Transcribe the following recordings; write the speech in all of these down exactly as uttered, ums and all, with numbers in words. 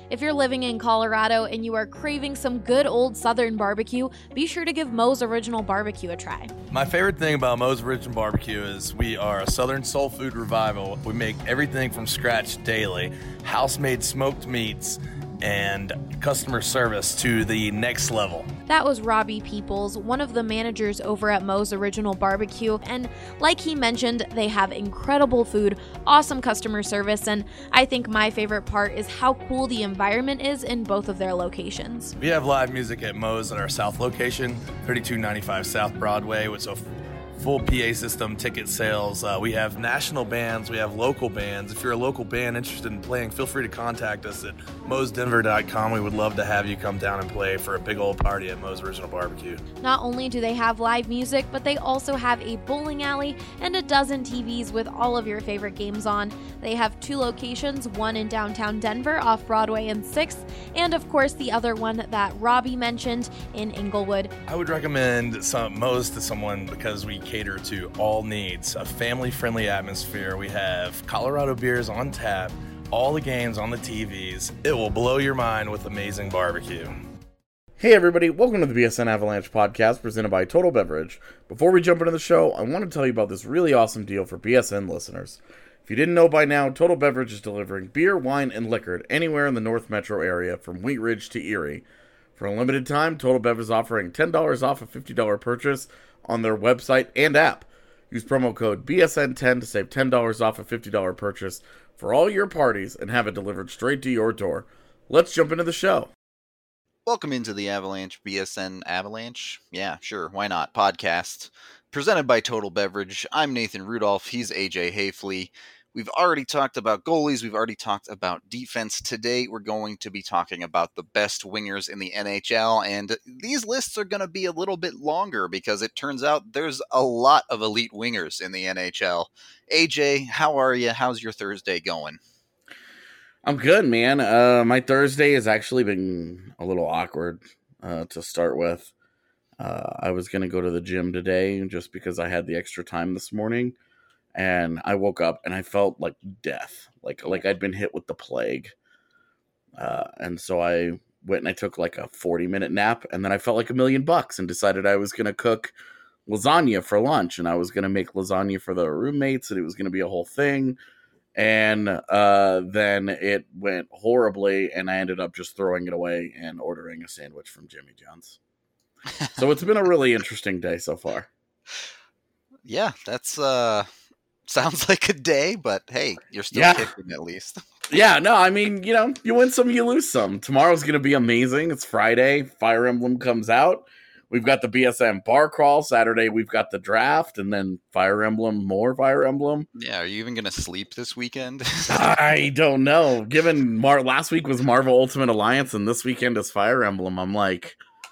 If you're living in Colorado and you are craving some good old Southern barbecue, be sure to give Moe's Original Barbecue a try. My favorite thing about Moe's Original Barbecue is we are a Southern soul food revival. We make everything from scratch daily, house-made smoked meats, and customer service to the next level. That was Robbie Peoples, one of the managers over at Moe's Original Barbecue, and like he mentioned, they have incredible food, awesome customer service, and I think my favorite part is how cool the environment is in both of their locations. We have live music at Moe's at our South location, thirty-two ninety-five South Broadway, with a full P A system, ticket sales. Uh, we have national bands, we have local bands. If you're a local band interested in playing, feel free to contact us at moes denver dot com. We would love to have you come down and play for a big old party at Moe's Original Barbecue. Not only do they have live music, but they also have a bowling alley and a dozen T Vs with all of your favorite games on. They have two locations, one in downtown Denver off Broadway and sixth, and of course the other one that Robbie mentioned in Inglewood. I would recommend some Moe's to someone because we cater to all needs, a family-friendly atmosphere. We have Colorado beers on tap, all the games on the T Vs. It will blow your mind with amazing barbecue. Hey everybody, welcome to the B S N Avalanche podcast presented by Total Beverage. Before we jump into the show, I want to tell you about this really awesome deal for B S N listeners. If you didn't know by now, Total Beverage is delivering beer, wine, and liquor anywhere in the North Metro area from Wheat Ridge to Erie. For a limited time, Total Bev is offering ten dollars off a fifty dollars purchase on their website and app. Use promo code B S N ten to save ten dollars off a fifty dollars purchase for all your parties and have it delivered straight to your door. Let's jump into the show. Welcome into the Avalanche, B S N Avalanche. Yeah, sure, why not? Podcast presented by Total Beverage. I'm Nathan Rudolph. He's A J Hayfley. We've already talked about goalies. We've already talked about defense. Today, we're going to be talking about the best wingers in the N H L, and these lists are going to be a little bit longer because it turns out there's a lot of elite wingers in the N H L. A J, how are you? How's your Thursday going? I'm good, man. Uh, my Thursday has actually been a little awkward uh, to start with. Uh, I was going to go to the gym today just because I had the extra time this morning. And I woke up and I felt like death, like like I'd been hit with the plague. Uh, and so I went and I took like a forty minute nap, and then I felt like a million bucks and decided I was going to cook lasagna for lunch, and I was going to make lasagna for the roommates, and it was going to be a whole thing. And uh, then it went horribly, and I ended up just throwing it away and ordering a sandwich from Jimmy John's. So it's been a really interesting day so far. Yeah, that's... uh. Sounds like a day, but hey, you're still yeah. kicking at least. yeah, no, I mean, you know, you win some, you lose some. Tomorrow's going to be amazing. It's Friday. Fire Emblem comes out. We've got the B S N bar crawl. Saturday, we've got the draft, and then Fire Emblem, more Fire Emblem. Yeah, are you even going to sleep this weekend? I don't know. Given Mar- last week was Marvel Ultimate Alliance, and this weekend is Fire Emblem, I'm like...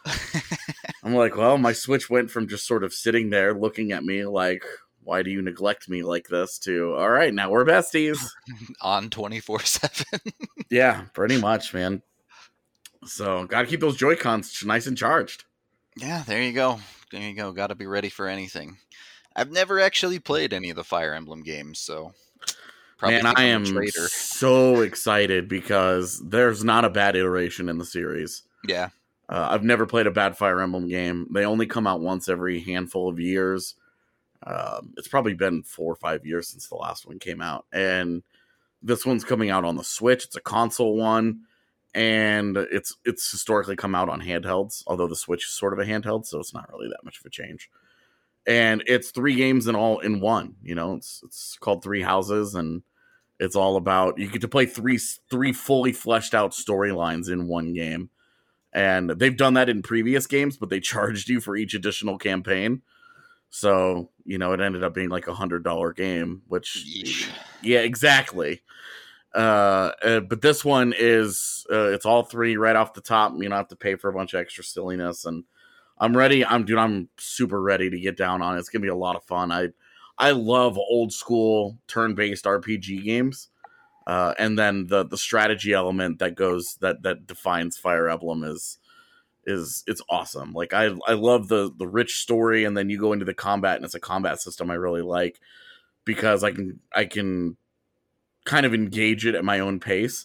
I'm like, well, my Switch went from just sort of sitting there looking at me like... why do you neglect me like this, to, all right, now we're besties. On twenty-four seven. Yeah, pretty much, man. So, got to keep those Joy-Cons nice and charged. Yeah, there you go. There you go. Got to be ready for anything. I've never actually played any of the Fire Emblem games, so... probably Man, I am so excited because there's not a bad iteration in the series. Yeah. Uh, I've never played a bad Fire Emblem game. They only come out once every handful of years. Um, it's probably been four or five years since the last one came out, and this one's coming out on the Switch. It's a console one, and it's it's historically come out on handhelds, although the Switch is sort of a handheld, so it's not really that much of a change. And it's three games in all in one. You know, it's it's called Three Houses, and it's all about, you get to play three three fully fleshed out storylines in one game. And they've done that in previous games, but they charged you for each additional campaign. So, you know, it ended up being like a hundred dollar game, which, Yeesh. yeah, exactly. Uh, uh, but this one is, uh, it's all three right off the top. You don't have to pay for a bunch of extra silliness, and I'm ready. I'm, dude, I'm super ready to get down on it. It's gonna be a lot of fun. I, I love old school turn-based R P G games. Uh, and then the, the strategy element that goes, that, that defines Fire Emblem is, is it's awesome. Like I I love the the rich story, and then you go into the combat, and it's a combat system I really like because I can I can kind of engage it at my own pace.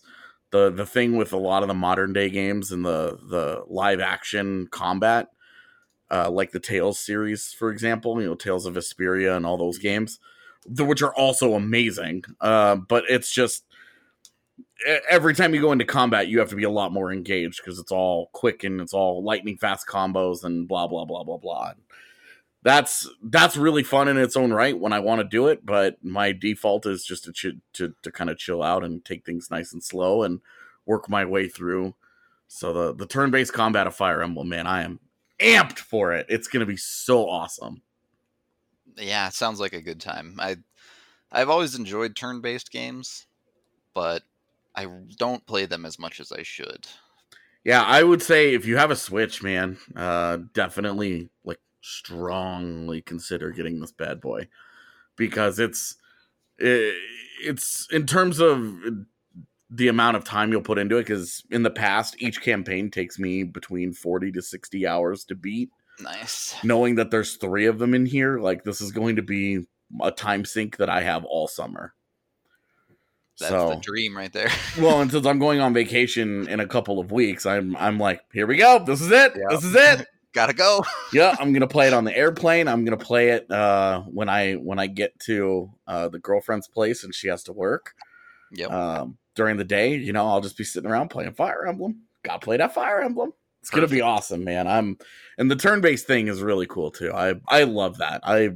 the the thing with a lot of the modern day games and the the live action combat, uh, like the Tales series, for example, you know, Tales of Vesperia and all those games, which are also amazing. Uh, but it's just every time you go into combat, you have to be a lot more engaged because it's all quick and it's all lightning fast combos and blah blah blah blah blah. That's that's really fun in its own right when I want to do it, but my default is just to ch- to to kind of chill out and take things nice and slow and work my way through. So the the turn-based combat of Fire Emblem, man, I am amped for it. It's going to be so awesome. Yeah, it sounds like a good time. I I've always enjoyed turn-based games, but I don't play them as much as I should. Yeah, I would say if you have a Switch, man, uh, definitely like strongly consider getting this bad boy because it's it, it's in terms of the amount of time you'll put into it, because in the past each campaign takes me between forty to sixty hours to beat. Nice. Knowing that there's three of them in here, like this is going to be a time sink that I have all summer. That's so, the dream right there. Well, and since I'm going on vacation in a couple of weeks, I'm I'm like, here we go. This is it. Yep. This is it. Gotta go. Yeah, I'm gonna play it on the airplane. I'm gonna play it uh, when I when I get to uh, the girlfriend's place and she has to work. Yep. Um, during the day, you know, I'll just be sitting around playing Fire Emblem. Gotta play that Fire Emblem. It's Perfect. Gonna be awesome, man. I'm and the turn-based thing is really cool too. I I love that. I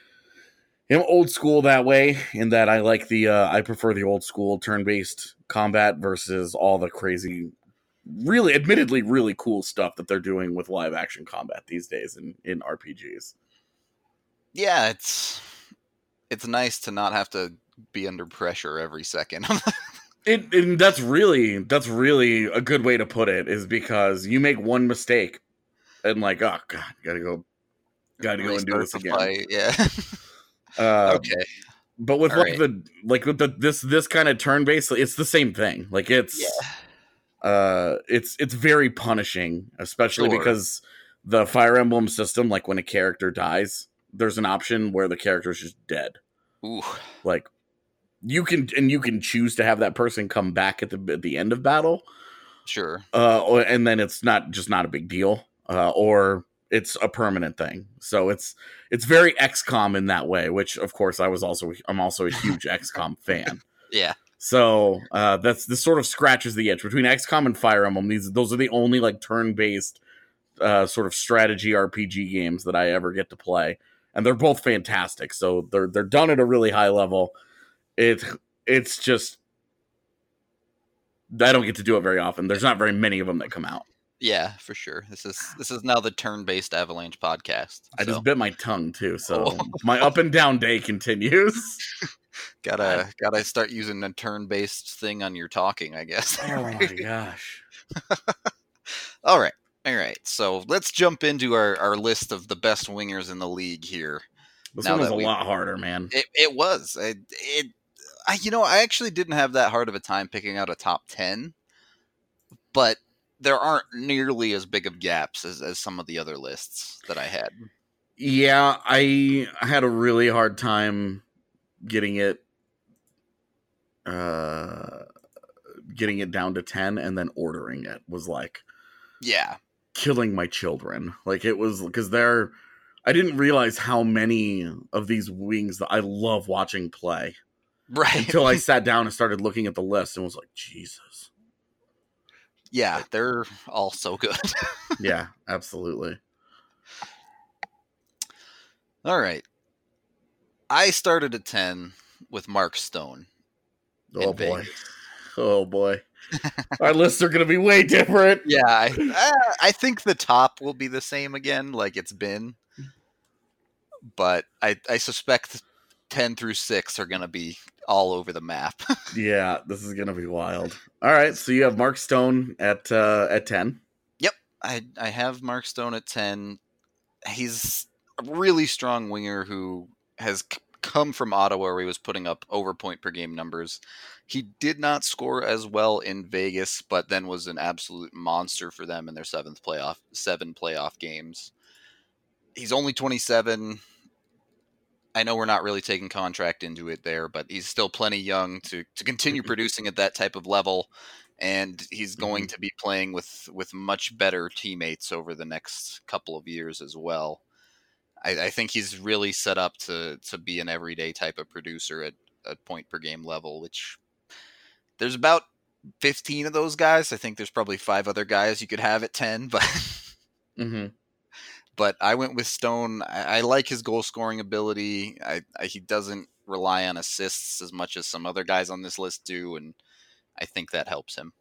am old school that way in that I like the uh, I prefer the old school turn-based combat versus all the crazy, really, admittedly, really cool stuff that they're doing with live action combat these days in, in R P Gs. Yeah, it's it's nice to not have to be under pressure every second. it and that's really that's really a good way to put it, is because you make one mistake and like, oh god, gotta go, gotta go and do this again. Fight. Yeah. uh, okay. But with All like right. the like with the this this kind of turn based, it's the same thing. Like it's. Yeah. Uh, it's it's very punishing, especially Sure. because the Fire Emblem system, like when a character dies, there's an option where the character is just dead. Ooh. Like you can and you can choose to have that person come back at the at the end of battle. Sure. Uh, or, and then it's not just not a big deal, uh, or it's a permanent thing. So it's it's very X COM in that way. Which of course I was also I'm also a huge X COM fan. Yeah. So uh, that's this sort of scratches the itch between X COM and Fire Emblem. These those are the only like turn-based uh, sort of strategy R P G games that I ever get to play, and they're both fantastic. So they're they're done at a really high level. It it's just I don't get to do it very often. There's not very many of them that come out. Yeah, for sure. This is this is now the turn-based Avalanche podcast. I so. just bit my tongue too, so Oh. my up and down day continues. Gotta gotta start using a turn-based thing on your talking, I guess. Oh my gosh. All right. All right. So let's jump into our, our list of the best wingers in the league here. This Now one was that a we- lot harder, man. It it was. It, it I you know, I actually didn't have that hard of a time picking out a top ten, but there aren't nearly as big of gaps as, as some of the other lists that I had. Yeah, I had a really hard time getting it uh getting it down to ten, and then ordering it was like Yeah. killing my children. Like it was because they're I didn't realize how many of these wings that I love watching play Right. until I sat down and started looking at the list and was like, Jesus. Yeah, they're all so good. Yeah, absolutely. All right. I started at ten with Mark Stone. Oh in boy. Vegas. Oh boy. Our lists are going to be way different. Yeah, I, I I think the top will be the same again, like it's been. But I, I suspect ten through six are going to be all over the map. Yeah, this is going to be wild. All right, so you have Mark Stone at uh, at ten. I, I have Mark Stone at ten. He's a really strong winger who has c- come from Ottawa, where he was putting up over point per game numbers. He did not score as well in Vegas, but then was an absolute monster for them in their seventh playoff, seven playoff games. He's only twenty-seven. I know we're not really taking contract into it there, but he's still plenty young to, to continue producing at that type of level. and he's going Mhm. to be playing with with much better teammates over the next couple of years as well. I, I think he's really set up to to be an everyday type of producer at a point per game level, which there's about fifteen of those guys. I think there's probably five other guys you could have at ten, but hmm but I went with Stone. I, I like his goal scoring ability. I, I he doesn't rely on assists as much as some other guys on this list do, and I think that helps him.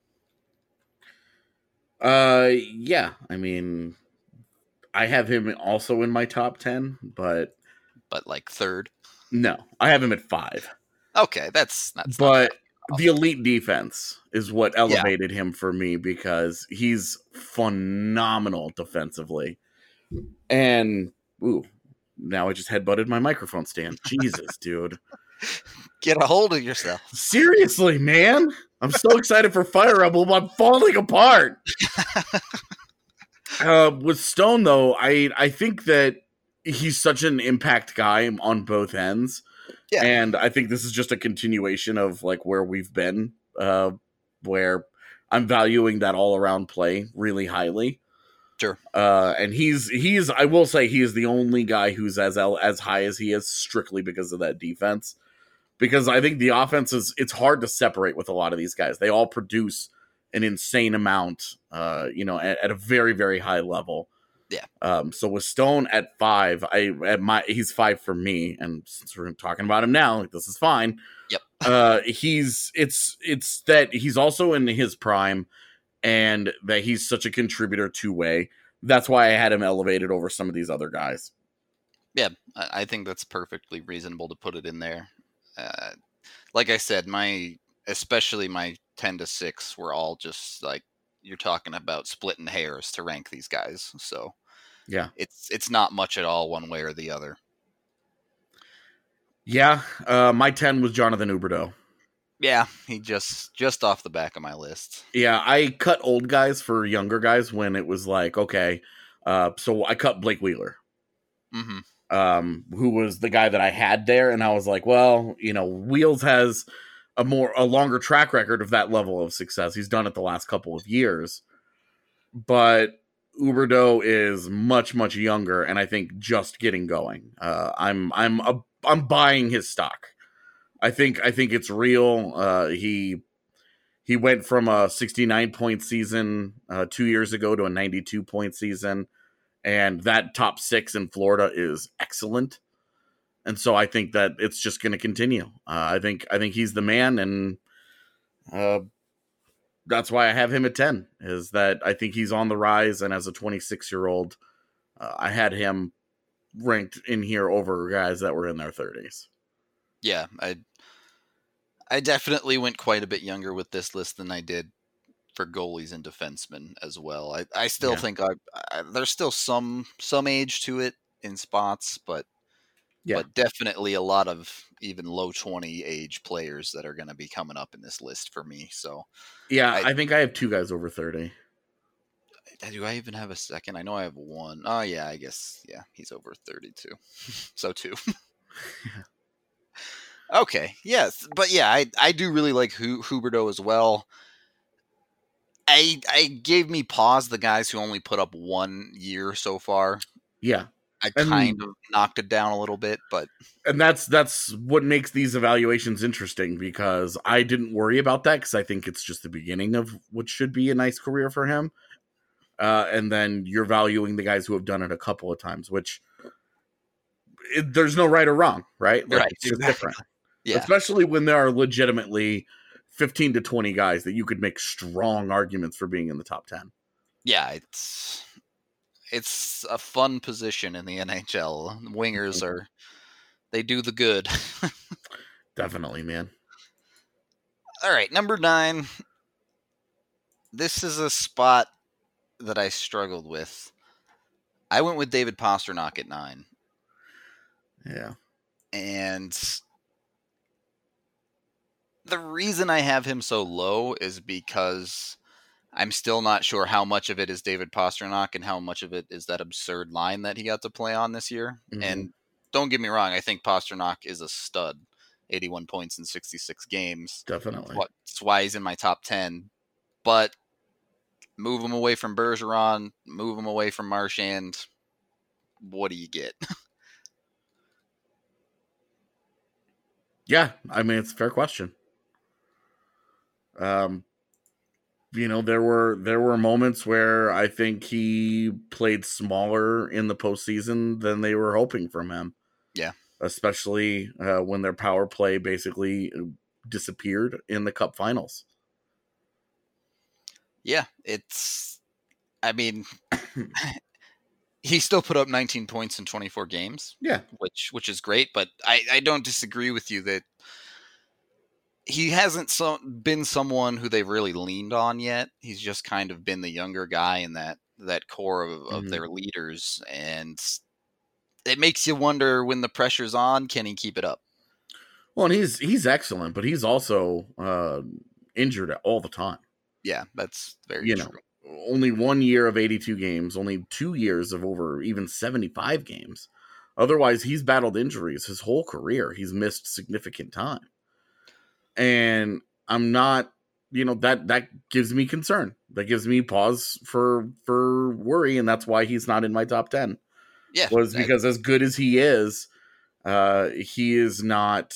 Uh, yeah. I mean, I have him also in my top ten, but But like third, no, I have him at five. okay, that's that's But not the elite defense is what Yeah. elevated him for me because he's phenomenal defensively. And ooh, now I just headbutted my microphone stand. Jesus, dude. get a hold of yourself. Seriously, man. I'm so excited for Fire Emblem. I'm falling apart. uh, with Stone, though, I I think that he's such an impact guy on both ends. Yeah. And I think this is just a continuation of like where we've been, uh, where I'm valuing that all around play really highly. Sure. Uh, and he's he's I will say he is the only guy who's as as high as he is strictly because of that defense. Because I think the offense is it's hard to separate with a lot of these guys. They all produce an insane amount, uh, you know, at, at a very very high level. Yeah. Um, so with Stone at five, I at my he's five for me, and since we're talking about him now, like, this is fine. Yep. Uh, he's it's it's that he's also in his prime, and that he's such a contributor two way. That's why I had him elevated over some of these other guys. Yeah, I I think that's perfectly reasonable to put it in there. Uh, like I said, my especially my ten to six were all just like you're talking about splitting hairs to rank these guys. So Yeah. it's it's not much at all one way or the other. Yeah. Uh, my ten was Jonathan Huberdeau. Yeah, he just just off the back of my list. Yeah, I cut old guys for younger guys when it was like, okay. Uh, so I cut Blake Wheeler. Mm-hmm. Um, who was the guy that I had there, and I was like, well, you know, Wheels has a more a longer track record of that level of success. He's done it the last couple of years, but Huberdeau is much much younger, and I think just getting going. Uh, I'm I'm a, I'm buying his stock. I think I think it's real. Uh, he he went from a sixty-nine point season uh, two years ago to a ninety-two point season. And that top six in Florida is excellent, and so I think that it's just going to continue. Uh, I think I think he's the man, and uh, that's why I have him at ten. Is that I think he's on the rise, and as a twenty-six year old, uh, I had him ranked in here over guys that were in their thirties. Yeah, I I definitely went quite a bit younger with this list than I did for goalies and defensemen as well. I, I still Yeah. think I, I there's still some some age to it in spots, but Yeah. but definitely a lot of even low twenty age players that are going to be coming up in this list for me. So Yeah, I- I, think I have two guys over thirty. do I even have a second? I know I have one. Oh yeah, I guess yeah, he's over thirty-two. So two. Okay, yes, but yeah, I I do really like Hu- Huberdeau as well. I I gave me pause the guys who only put up one year so far. Yeah. I And- kind of knocked it down a little bit, but And that's that's what makes these evaluations interesting, because I didn't worry about that because I think it's just the beginning of what should be a nice career for him. Uh, and then you're valuing the guys who have done it a couple of times, which it, there's no right or wrong, right? Like, Right, it's just exactly. different. yeah, Especially when there are legitimately fifteen to twenty guys that you could make strong arguments for being in the top ten. yeah, it's it's a fun position in the N H L. Wingers are they do the good. Definitely, man. All right, number nine. This is a spot that I struggled with. I went with David Pastrnak at nine, Yeah. and the reason I have him so low is because I'm still not sure how much of it is David Pastrnak and how much of it is that absurd line that he got to play on this year. Mhm. And don't get me wrong, I think Pastrnak is a stud. eighty-one points in sixty-six games. Definitely. That's why he's in my top ten. but move him away from Bergeron, move him away from Marchand. What do you get? Yeah, I mean, it's a fair question. Um, you know, there were there were moments where I think he played smaller in the postseason than they were hoping from him. Yeah, especially uh, when their power play basically disappeared in the Cup Finals. Yeah, it's. I mean, he still put up nineteen points in twenty-four games. Yeah, which which is great, but I I don't disagree with you that he hasn't so, been someone who they've really leaned on yet. He's just kind of been the younger guy in that that core of, of mm-hmm. their leaders, and it makes you wonder when the pressure's on, can he keep it up? Well, and he's he's excellent, but he's also uh, injured all the time. Yeah, that's very you true. know, only one year of eighty-two games, only two years of over even seventy-five games. Otherwise, he's battled injuries his whole career. He's missed significant time. And I'm not, you know, that that gives me concern. That gives me pause for for worry, and that's why he's not in my top ten. Yeah, was because I, as good as he is, uh, he is not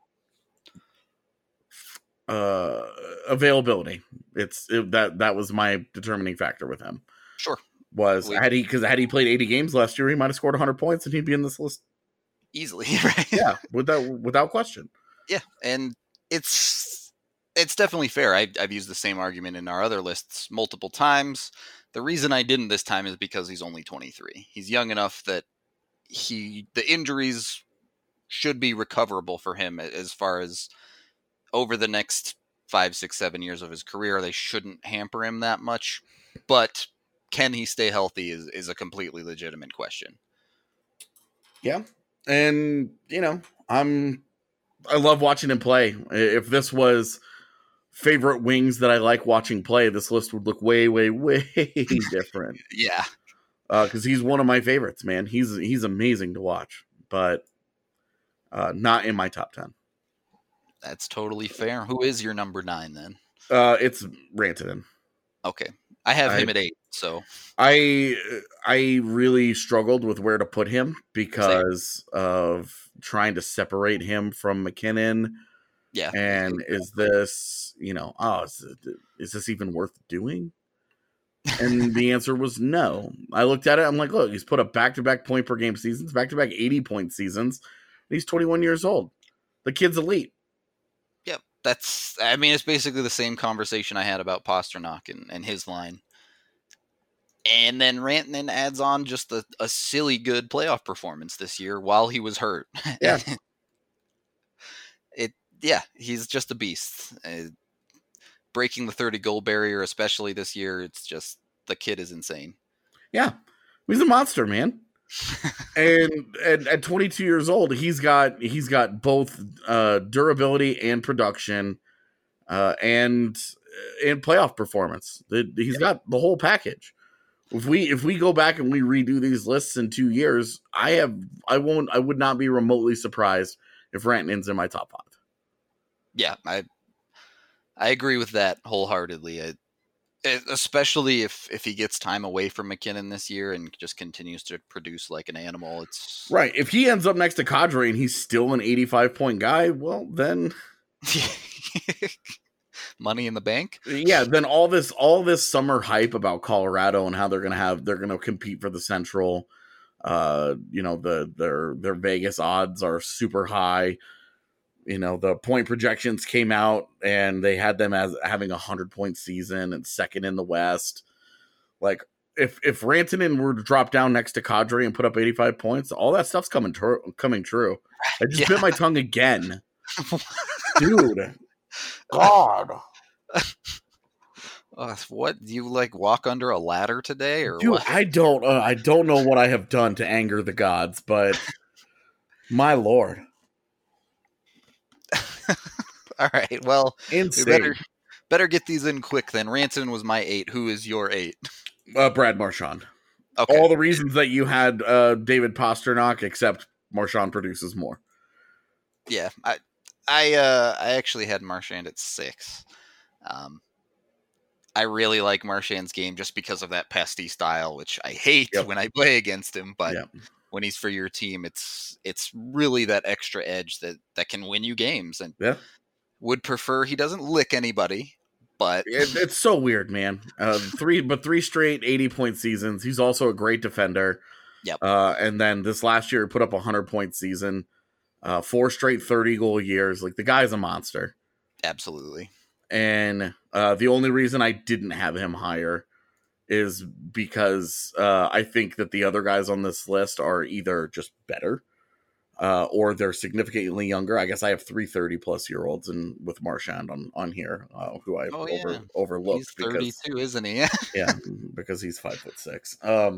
uh, availability. It's it, that that was my determining factor with him. Sure, was we, had he because had he played eighty games last year, he might have scored one hundred points, and he'd be in this list easily. Right? Yeah, without without question. Yeah, and it's it's definitely fair. I, I've used the same argument in our other lists multiple times. The reason I didn't this time is because he's only twenty-three. He's young enough that he the injuries should be recoverable for him as far as over the next five, six, seven years of his career. They shouldn't hamper him that much. But can he stay healthy is, is a completely legitimate question. Yeah. And, you know, I'm I love watching him play. If this was favorite wings that I like watching play, this list would look way, way, way different. Yeah. Because uh, he's one of my favorites, man. He's he's amazing to watch, but uh, not in my top ten. That's totally fair. Who is your number nine then? Uh, it's Rantanen. Okay. I have I, him at eight, so. I I really struggled with where to put him because Same. of trying to separate him from McKinnon. Yeah. And is this, you know, oh, is, it, is this even worth doing? And the answer was no. I looked at it. I'm like, look, he's put up back-to-back point per game seasons, back-to-back eighty point seasons. And he's twenty-one years old. The kid's elite. Yep. That's, I mean, it's basically the same conversation I had about Pasternak and, and his line. And then Rantanen adds on just a, a silly good playoff performance this year while he was hurt. Yeah. it, yeah, he's just a beast. Uh, breaking the thirty goal barrier, especially this year, it's just, the kid is insane. Yeah. He's a monster, man. and, and at twenty-two years old, he's got he's got both uh, durability and production uh, and and playoff performance. He's got the whole package. If we if we go back and we redo these lists in two years, I have I won't I would not be remotely surprised if Rantanen's in my top five. Yeah, I I agree with that wholeheartedly. I, especially if, if he gets time away from McKinnon this year and just continues to produce like an animal. It's right. If he ends up next to Kadri and he's still an eighty-five point guy, well, then money in the bank. Yeah. Then all this, all this summer hype about Colorado and how they're going to have, they're going to compete for the Central. Uh, you know, the, their, their Vegas odds are super high. You know, the point projections came out and they had them as having a hundred point season and second in the West. Like if, if Rantanen were to drop down next to Kadri and put up eighty-five points, all that stuff's coming, tr- coming true. I just yeah. bit my tongue again, dude. God. Uh, what, do you like walk under a ladder today or dude, what? I don't, uh, I don't know what I have done to anger the gods, but my Lord. All right. Well, Insane. we better better get these in quick then. Rantanen was my eight. Who is your eight? Uh, Brad Marchand. Okay. All the reasons that you had uh, David Pasternak, except Marchand produces more. Yeah, I I uh, I actually had Marchand at six. Um, I really like Marchand's game just because of that pesty style, which I hate Yep. when I play against him. But Yep. when he's for your team, it's it's really that extra edge that, that can win you games. And Yeah. would prefer he doesn't lick anybody, but It, it's so weird, man. Uh, three, but three straight eighty point seasons. He's also a great defender. Yep. Uh, and then this last year, he put up a hundred point season. Uh, four straight thirty goal years. Like the guy's a monster. absolutely. And uh, the only reason I didn't have him higher is because uh, I think that the other guys on this list are either just better uh, or they're significantly younger. I guess I have three thirty plus year olds and with Marchand on, on here, uh, who I Oh, over, yeah. overlooked. He's thirty-two, because, isn't he? yeah, because he's five foot six. Um,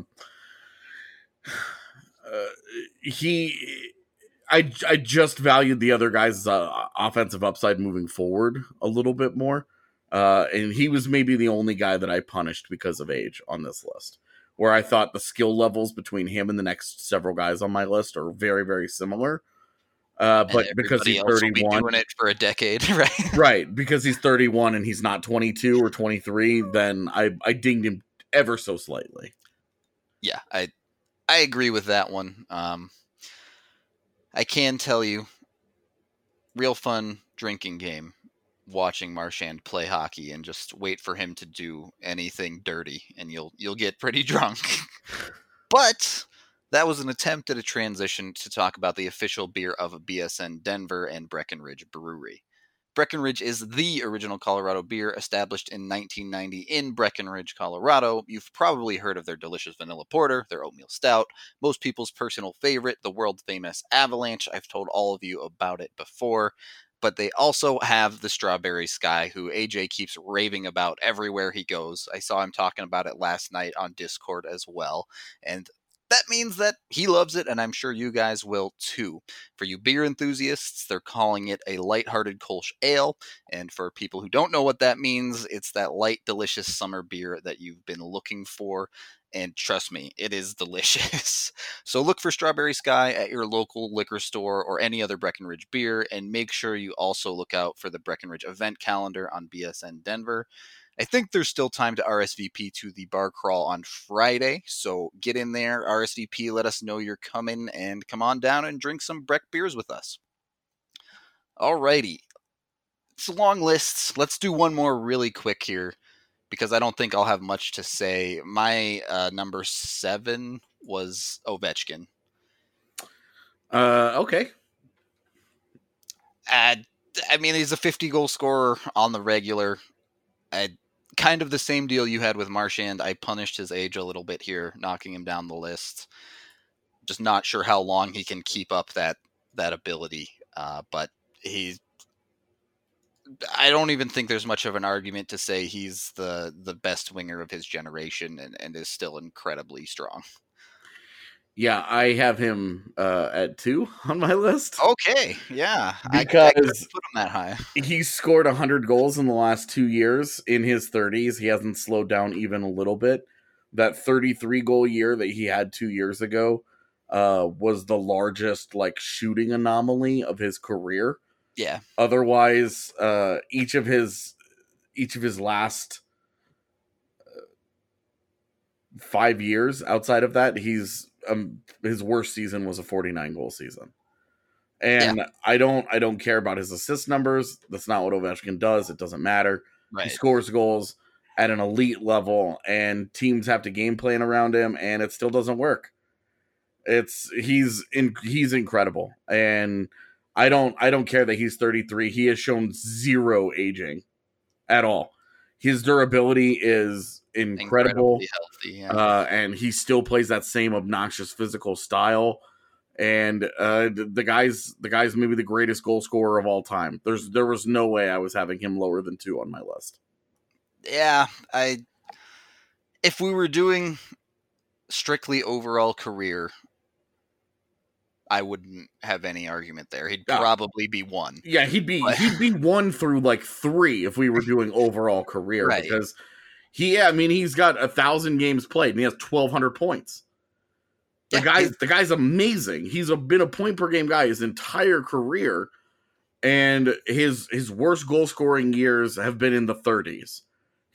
uh, he... I, I just valued the other guy's uh, offensive upside moving forward a little bit more. Uh, and he was maybe the only guy that I punished because of age on this list, where I thought the skill levels between him and the next several guys on my list are very, very similar. Uh, but because he's thirty-one, be doing it for a decade, right? right. Because he's thirty-one and he's not twenty-two or twenty-three, then I, I dinged him ever so slightly. Yeah, I, I agree with that one. Um, I can tell you, real fun drinking game, watching Marchand play hockey and just wait for him to do anything dirty, and you'll you'll get pretty drunk. But that was an attempt at a transition to talk about the official beer of B S N Denver and Breckenridge Brewery. Breckenridge is the original Colorado beer, established in nineteen ninety in Breckenridge, Colorado. You've probably heard of their delicious vanilla porter, their oatmeal stout, most people's personal favorite, the world-famous Avalanche. I've told all of you about it before. But they also have the Strawberry Sky, who A J keeps raving about everywhere he goes. I saw him talking about it last night on Discord as well. And that means that he loves it, and I'm sure you guys will too. For you beer enthusiasts, they're calling it a lighthearted Kolsch ale. And for people who don't know what that means, it's that light, delicious summer beer that you've been looking for. And trust me, it is delicious. So look for Strawberry Sky at your local liquor store or any other Breckenridge beer, and make sure you also look out for the Breckenridge event calendar on B S N Denver. I think there's still time to R S V P to the bar crawl on Friday, so get in there, R S V P, let us know you're coming, and come on down and drink some Breck beers with us. Alrighty. It's a long list. Let's do one more really quick here, because I don't think I'll have much to say. My uh, number seven was Ovechkin. Uh, okay. Uh, I mean, he's a fifty-goal scorer on the regular. I, kind of the same deal you had with Marchand. I punished his age a little bit here, knocking him down the list. Just not sure how long he can keep up that that ability. Uh, but he's... I don't even think there's much of an argument to say he's the, the best winger of his generation and, and is still incredibly strong. Yeah, I have him uh, at two on my list. Okay, yeah. Because I, I couldn't put him that high. He's scored one hundred goals in the last two years in his thirties. He hasn't slowed down even a little bit. That thirty-three goal year that he had two years ago uh, was the largest like shooting anomaly of his career. Yeah. Otherwise, uh, each of his each of his last uh, five years outside of that, he's um, his worst season was a forty-nine goal season. And yeah. I don't I don't care about his assist numbers. That's not what Ovechkin does. It doesn't matter. Right. He scores goals at an elite level, and teams have to game plan around him, and it still doesn't work. It's he's in, he's incredible, and I don't I don't care that he's thirty-three. He has shown zero aging at all. His durability is incredible, healthy, yeah. uh, and he still plays that same obnoxious physical style. And uh, the, the guy's the guy's maybe the greatest goal scorer of all time. There's there was no way I was having him lower than two on my list. Yeah, I. If we were doing strictly overall career, I wouldn't have any argument there. He'd Yeah. probably be one. Yeah, he'd be But- he'd be one through like three if we were doing overall career, Right. because he yeah, I mean he's got a thousand games played and he has twelve hundred points. The Yeah, guy's he's- the guy's amazing. He's a, been a point per game guy his entire career, and his his worst goal scoring years have been in the thirties.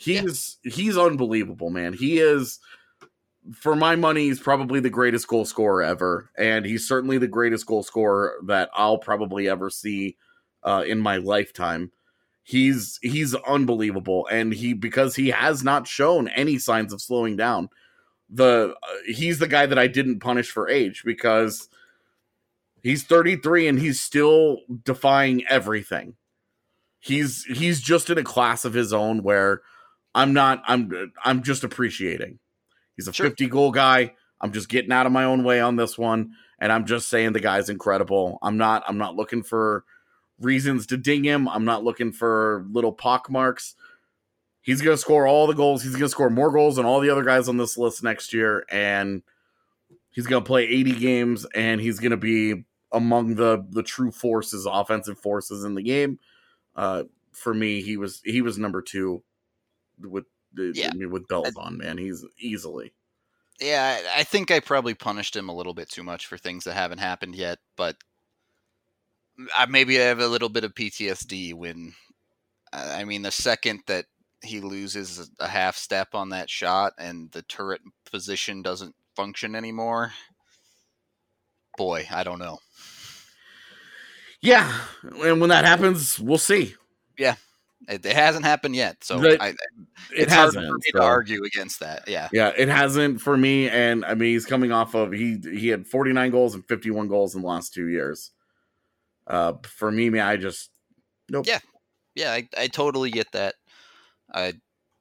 He's yeah. he's unbelievable, man. He is, for my money, he's probably the greatest goal scorer ever, and he's certainly the greatest goal scorer that I'll probably ever see uh, in my lifetime. He's he's unbelievable, and he because he has not shown any signs of slowing down. The uh, he's the guy that I didn't punish for age, because he's thirty-three and he's still defying everything. He's he's just in a class of his own where I'm not I'm I'm just appreciating. He's a sure. fifty goal guy. I'm just getting out of my own way on this one, and I'm just saying the guy's incredible. I'm not I'm not looking for reasons to ding him. I'm not looking for little pock marks. He's going to score all the goals. He's going to score more goals than all the other guys on this list next year, and he's going to play eighty games, and he's going to be among the the true forces, offensive forces in the game. Uh, for me, he was he was number two with the yeah. I mean, with bells on, man. He's easily. Yeah, I think I probably punished him a little bit too much for things that haven't happened yet, but I, maybe I have a little bit of P T S D when, I mean, the second that he loses a half step on that shot and the turret position doesn't function anymore, boy, I don't know. Yeah, and when that happens, we'll see. Yeah, it, it hasn't happened yet, so the, I, it it's hasn't, hard for me so. to argue against that. Yeah, yeah, it hasn't for me, and I mean, he's coming off of he he had forty-nine goals and fifty-one goals in the last two years. Uh, for me, man, I just nope. Yeah, yeah, I, I totally get that. I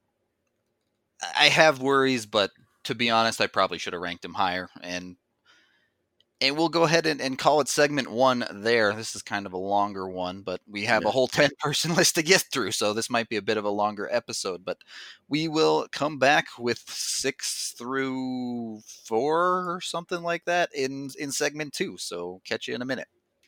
I have worries, but to be honest, I probably should have ranked him higher. And and we'll go ahead and, and call it segment one there. This is kind of a longer one, but we have yeah. a whole ten-person list to get through, so this might be a bit of a longer episode. But we will come back with six through four or something like that in, in segment two. So catch you in a minute.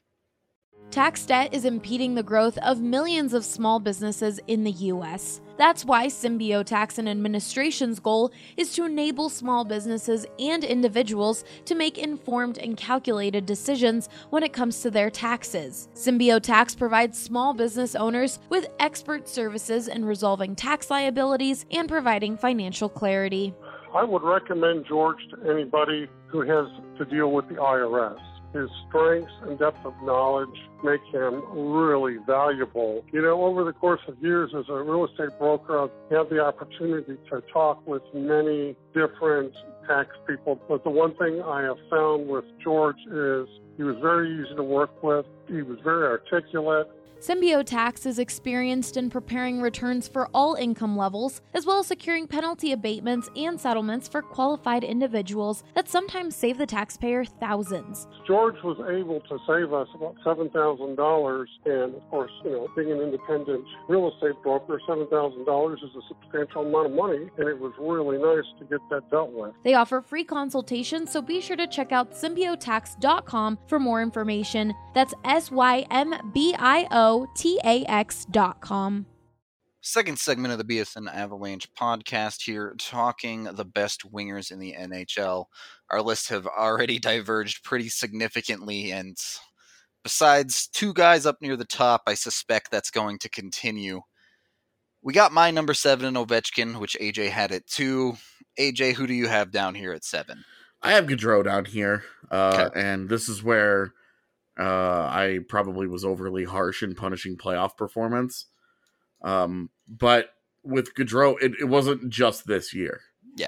Tax debt is impeding the growth of millions of small businesses in the U S. That's why Symbio Tax and Administration's goal is to enable small businesses and individuals to make informed and calculated decisions when it comes to their taxes. Symbio Tax provides small business owners with expert services in resolving tax liabilities and providing financial clarity. I would recommend George to anybody who has to deal with the I R S. His strengths and depth of knowledge make him really valuable. You know, over the course of years as a real estate broker, I've had the opportunity to talk with many different tax people. But the one thing I have found with George is he was very easy to work with. He was very articulate. Symbio Tax is experienced in preparing returns for all income levels, as well as securing penalty abatements and settlements for qualified individuals that sometimes save the taxpayer thousands. George was able to save us about seven thousand dollars, and of course, you know, being an independent real estate broker, seven thousand dollars is a substantial amount of money, and it was really nice to get that dealt with. They offer free consultations, so be sure to check out symbio tax dot com for more information. That's S Y M B I O T A X dot com. Second segment of the B S N Avalanche podcast here, talking the best wingers in the N H L. Our lists have already diverged pretty significantly, and besides two guys up near the top, I suspect that's going to continue. We got my number seven in Ovechkin, which A J had at two. A J, who do you have down here at seven? I have Gaudreau down here, uh, okay. and this is where uh, I probably was overly harsh in punishing playoff performance. Um, but with Gaudreau, it, it wasn't just this year. Yeah.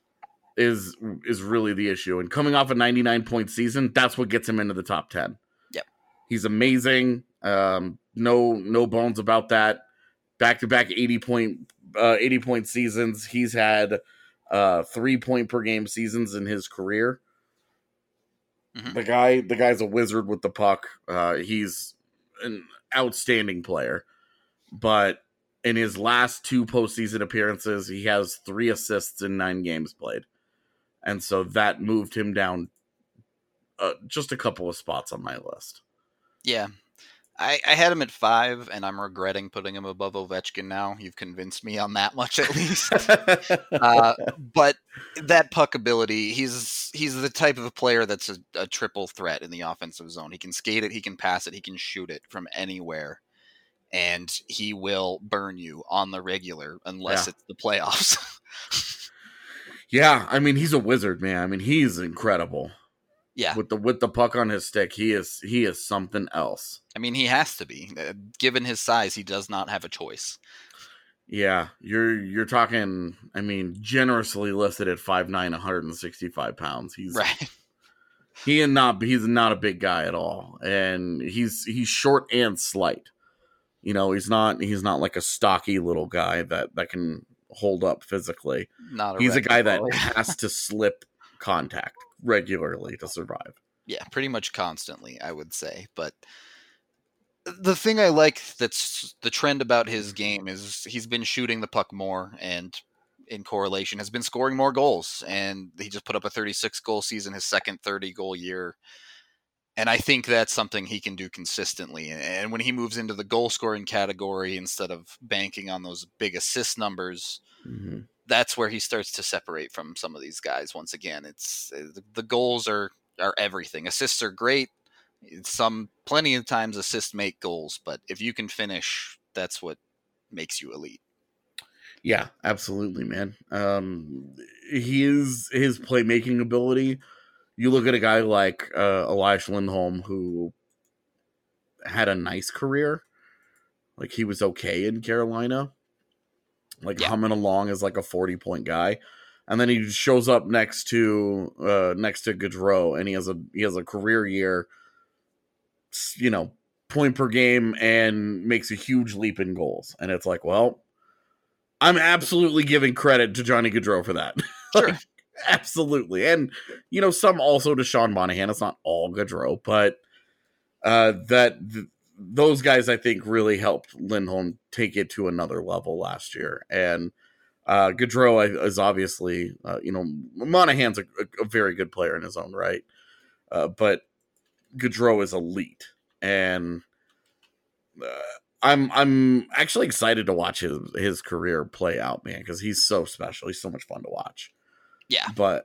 Is is really the issue. And coming off a ninety-nine point season, that's what gets him into the top ten. Yep. He's amazing. Um, no no bones about that. Back-to-back eighty point uh, eighty point seasons. He's had uh, three point per game seasons in his career. Mm-hmm. The guy, the guy's a wizard with the puck. Uh, he's an outstanding player. But in his last two postseason appearances, he has three assists in nine games played. And so that moved him down uh, just a couple of spots on my list. Yeah. I, I had him at five, and I'm regretting putting him above Ovechkin now. You've convinced me on that much, at least. uh, but that puck ability, he's he's the type of player that's a, a triple threat in the offensive zone. He can skate it, he can pass it, he can shoot it from anywhere. and he will burn you on the regular unless Yeah. it's the playoffs. Yeah, I mean, he's a wizard, man. I mean, he's incredible. Yeah. With the with the puck on his stick, he is he is something else. I mean, he has to be. Uh, given his size, he does not have a choice. Yeah, you're you're talking, I mean, generously listed at five nine, one hundred sixty-five pounds. He's Right. he and not he's not a big guy at all. And he's he's short and slight. You know, he's not he's not like a stocky little guy that, that can hold up physically. Not a He's a guy that wrecking ball. has to slip contact regularly to survive. Yeah, pretty much constantly, I would say. But the thing I like that's the trend about his game is he's been shooting the puck more, and in correlation has been scoring more goals. And he just put up a thirty-six goal season, his second thirty goal year. And I think that's something he can do consistently. And when he moves into the goal scoring category instead of banking on those big assist numbers, Mm-hmm. that's where he starts to separate from some of these guys. Once again, it's the goals are are everything. Assists are great. Some plenty of times assists make goals, but if you can finish, that's what makes you elite. Yeah, absolutely, man. Um, his his playmaking ability. You look at a guy like uh, Elias Lindholm, who had a nice career. Like, he was okay in Carolina, like Yeah. humming along as like a forty point guy, and then he shows up next to uh, next to Gaudreau, and he has a he has a career year. You know, point per game, and makes a huge leap in goals, and it's like, well, I'm absolutely giving credit to Johnny Gaudreau for that. Sure. Like, absolutely. And, you know, some also to Sean Monahan. It's not all Gaudreau, but uh, that th- those guys, I think, really helped Lindholm take it to another level last year. And uh, Gaudreau is obviously, uh, you know, Monahan's a, a very good player in his own right. Uh, but Gaudreau is elite. And uh, I'm I'm actually excited to watch his, his career play out, man, because he's so special. He's so much fun to watch. Yeah. But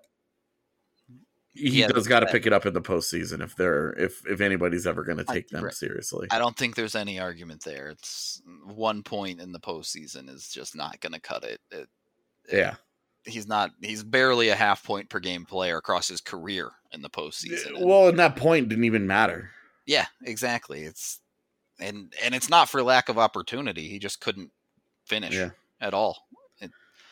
he Yeah, does got to that- pick it up in the postseason if they're if if anybody's ever going to I- take them right. seriously. I don't think there's any argument there. It's one point in the postseason is just not going to cut it. it, it Yeah. He's not, he's barely a half point per game player across his career in the postseason. And- Well, and that point didn't even matter. yeah, exactly. It's, and, and it's not for lack of opportunity. He just couldn't finish Yeah. at all. It,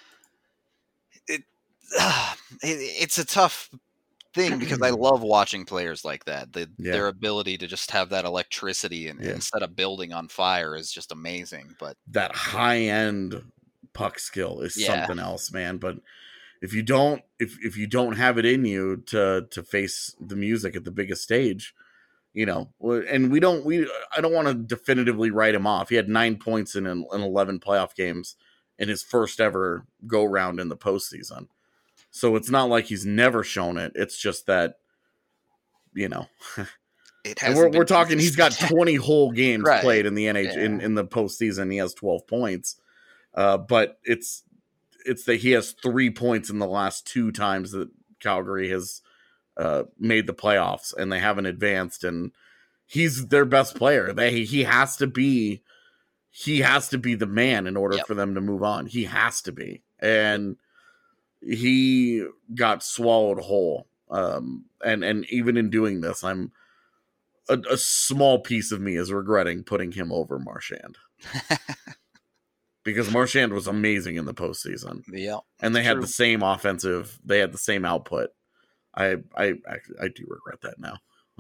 it, it, it's a tough thing because I love watching players like that. The, Yeah. Their ability to just have that electricity and, Yeah. and set a building on fire is just amazing. But That high end puck skill is Yeah. something else, man. But if you don't if if you don't have it in you to to face the music at the biggest stage, you know, and we don't we I don't want to definitively write him off. He had nine points in in eleven playoff games in his first ever go round in the postseason. So it's not like he's never shown it. It's just that, you know, it and has. we're, we're talking. He's got twenty whole games Right. played in the N H in, Yeah. in the postseason. He has twelve points, uh, but it's it's that he has three points in the last two times that Calgary has uh, made the playoffs, and they haven't advanced. And he's their best player. They he has to be he has to be the man in order Yep. for them to move on. He has to be, and he got swallowed whole. Um, and and even in doing this, I'm a, a small piece of me is regretting putting him over Marchand because Marchand was amazing in the postseason, Yeah. and they had True. the same offensive, they had the same output. I I actually I do regret that now,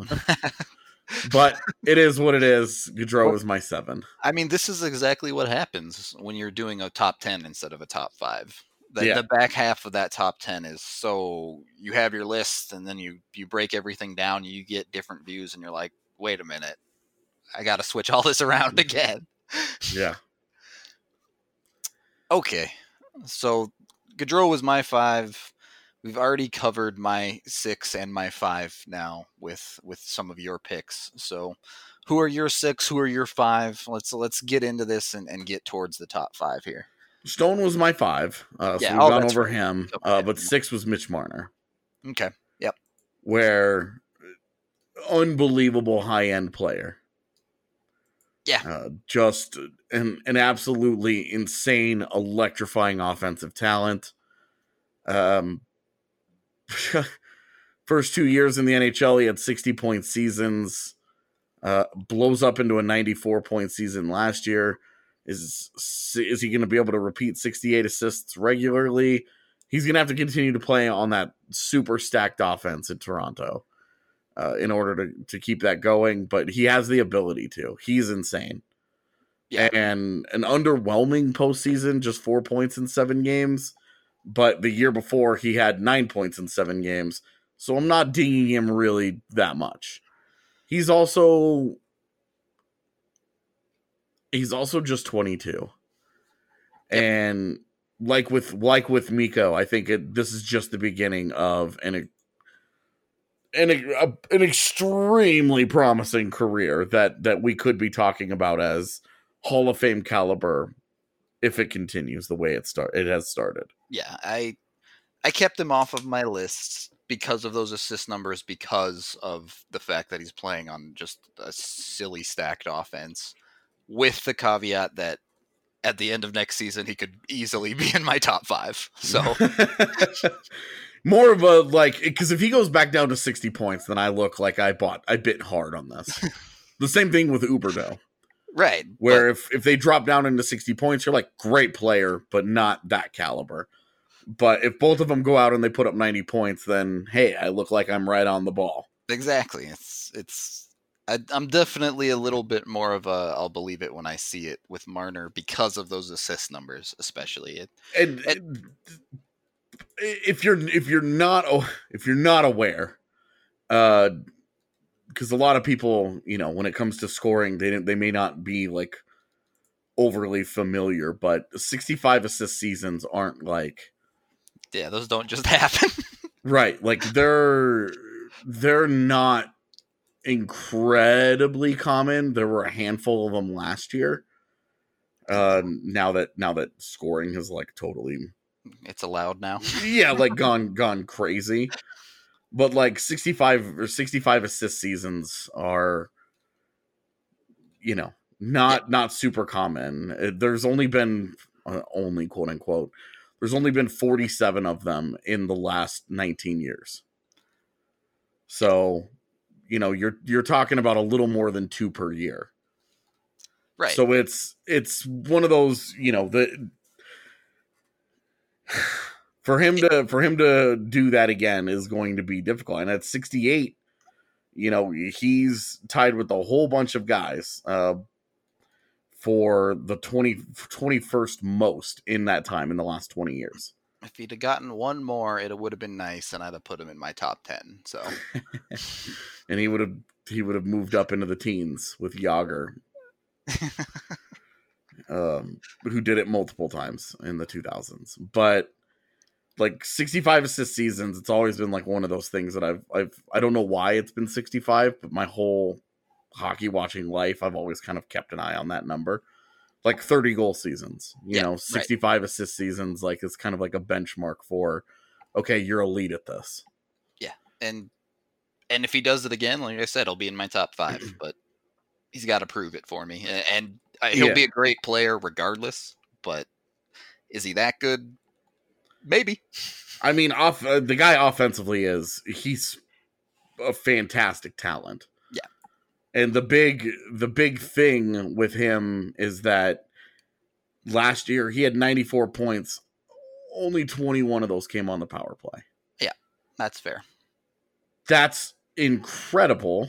but it is what it is. Gaudreau is my seven. I mean, this is exactly what happens when you're doing a top ten instead of a top five. The, Yeah. the back half of that top ten is so you have your list and then you, you break everything down. You get different views and you're like, wait a minute, I got to switch all this around again. Yeah, Okay. So Gaudreau was my five. We've already covered my six and my five now with with some of your picks. So who are your six? Who are your five? Let's let's get into this and, and get towards the top five here. Stone was my five. Uh, so Yeah, we've oh, gone that's over right. him, Okay. uh, but six was Mitch Marner, Okay. Yep. where unbelievable high end player. Yeah. Uh, just an, an absolutely insane, electrifying offensive talent. Um, first two years in the N H L, he had sixty-point seasons. Uh, blows up into a ninety-four point season last year. Is is he going to be able to repeat sixty-eight assists regularly? He's going to have to continue to play on that super stacked offense in Toronto uh, in order to, to keep that going. But he has the ability to. He's insane. Yeah. And an underwhelming postseason, just four points in seven games. But the year before, he had nine points in seven games. So I'm not dinging him really that much. He's also he's also just twenty-two. Yep. And like with like with Mikko, I think it, this is just the beginning of an an, a, an extremely promising career that that we could be talking about as Hall of Fame caliber if it continues the way it start it has started. Yeah, I I kept him off of my lists because of those assist numbers, because of the fact that he's playing on just a silly stacked offense, with the caveat that at the end of next season, he could easily be in my top five. So more of a, like, because if he goes back down to sixty points, then I look like I bought, I bit hard on this. The same thing with Huberdeau. Right. Where if, if they drop down into sixty points, you're like, great player, but not that caliber. But if both of them go out and they put up ninety points, then, hey, I look like I'm right on the ball. Exactly. It's, it's, I, I'm definitely a little bit more of a, I'll believe it when I see it with Marner because of those assist numbers, especially. It, and it, if you're, if you're not, if you're not aware, uh, because a lot of people, you know, when it comes to scoring, they they may not be like overly familiar, but sixty-five assist seasons aren't like, yeah, those don't just happen. Right. Like they're, they're not incredibly common. There were a handful of them last year. Uh, now that, now that scoring has like totally, it's allowed now. yeah, like gone, gone crazy. But like sixty-five or sixty-five assist seasons are, you know, not, yeah. not super common. There's only been uh, only quote unquote, there's only been forty-seven of them in the last nineteen years. So, you know, you're, you're talking about a little more than two per year. Right. So it's, it's one of those, you know, the, for him to, for him to do that again is going to be difficult. And at sixty-eight, you know, he's tied with a whole bunch of guys, uh, for the twenty, twenty-first most in that time in the last twenty years. If he'd have gotten one more, it would have been nice, and I'd have put him in my top ten. So, and he would have he would have moved up into the teens with Yager, um, who did it multiple times in the two thousands. But like sixty-five assist seasons, it's always been like one of those things that I've I've I don't know why it's been sixty-five, but my whole hockey watching life, I've always kind of kept an eye on that number. Like thirty goal seasons, you yeah, know, sixty-five right. assist seasons, like it's kind of like a benchmark for, okay, you're elite at this. Yeah. And, and if he does it again, like I said, he'll be in my top five, but he's got to prove it for me. And, and he'll yeah. be a great player regardless, but is he that good? Maybe. I mean, off uh, the guy offensively is, he's a fantastic talent. And the big, the big thing with him is that last year he had ninety-four points. Only twenty-one of those came on the power play. Yeah, that's fair. That's incredible.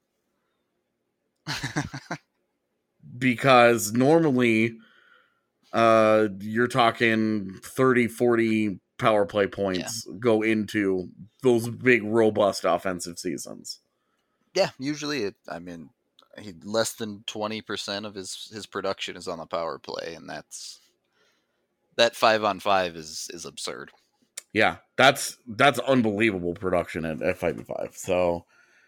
Because normally uh, you're talking thirty, forty power play points yeah. go into those big, robust offensive seasons. Yeah, usually, it, I mean, he, less than twenty percent of his, his production is on the power play, and that's that five on five is is absurd. Yeah, that's that's unbelievable production at, at five and five. So,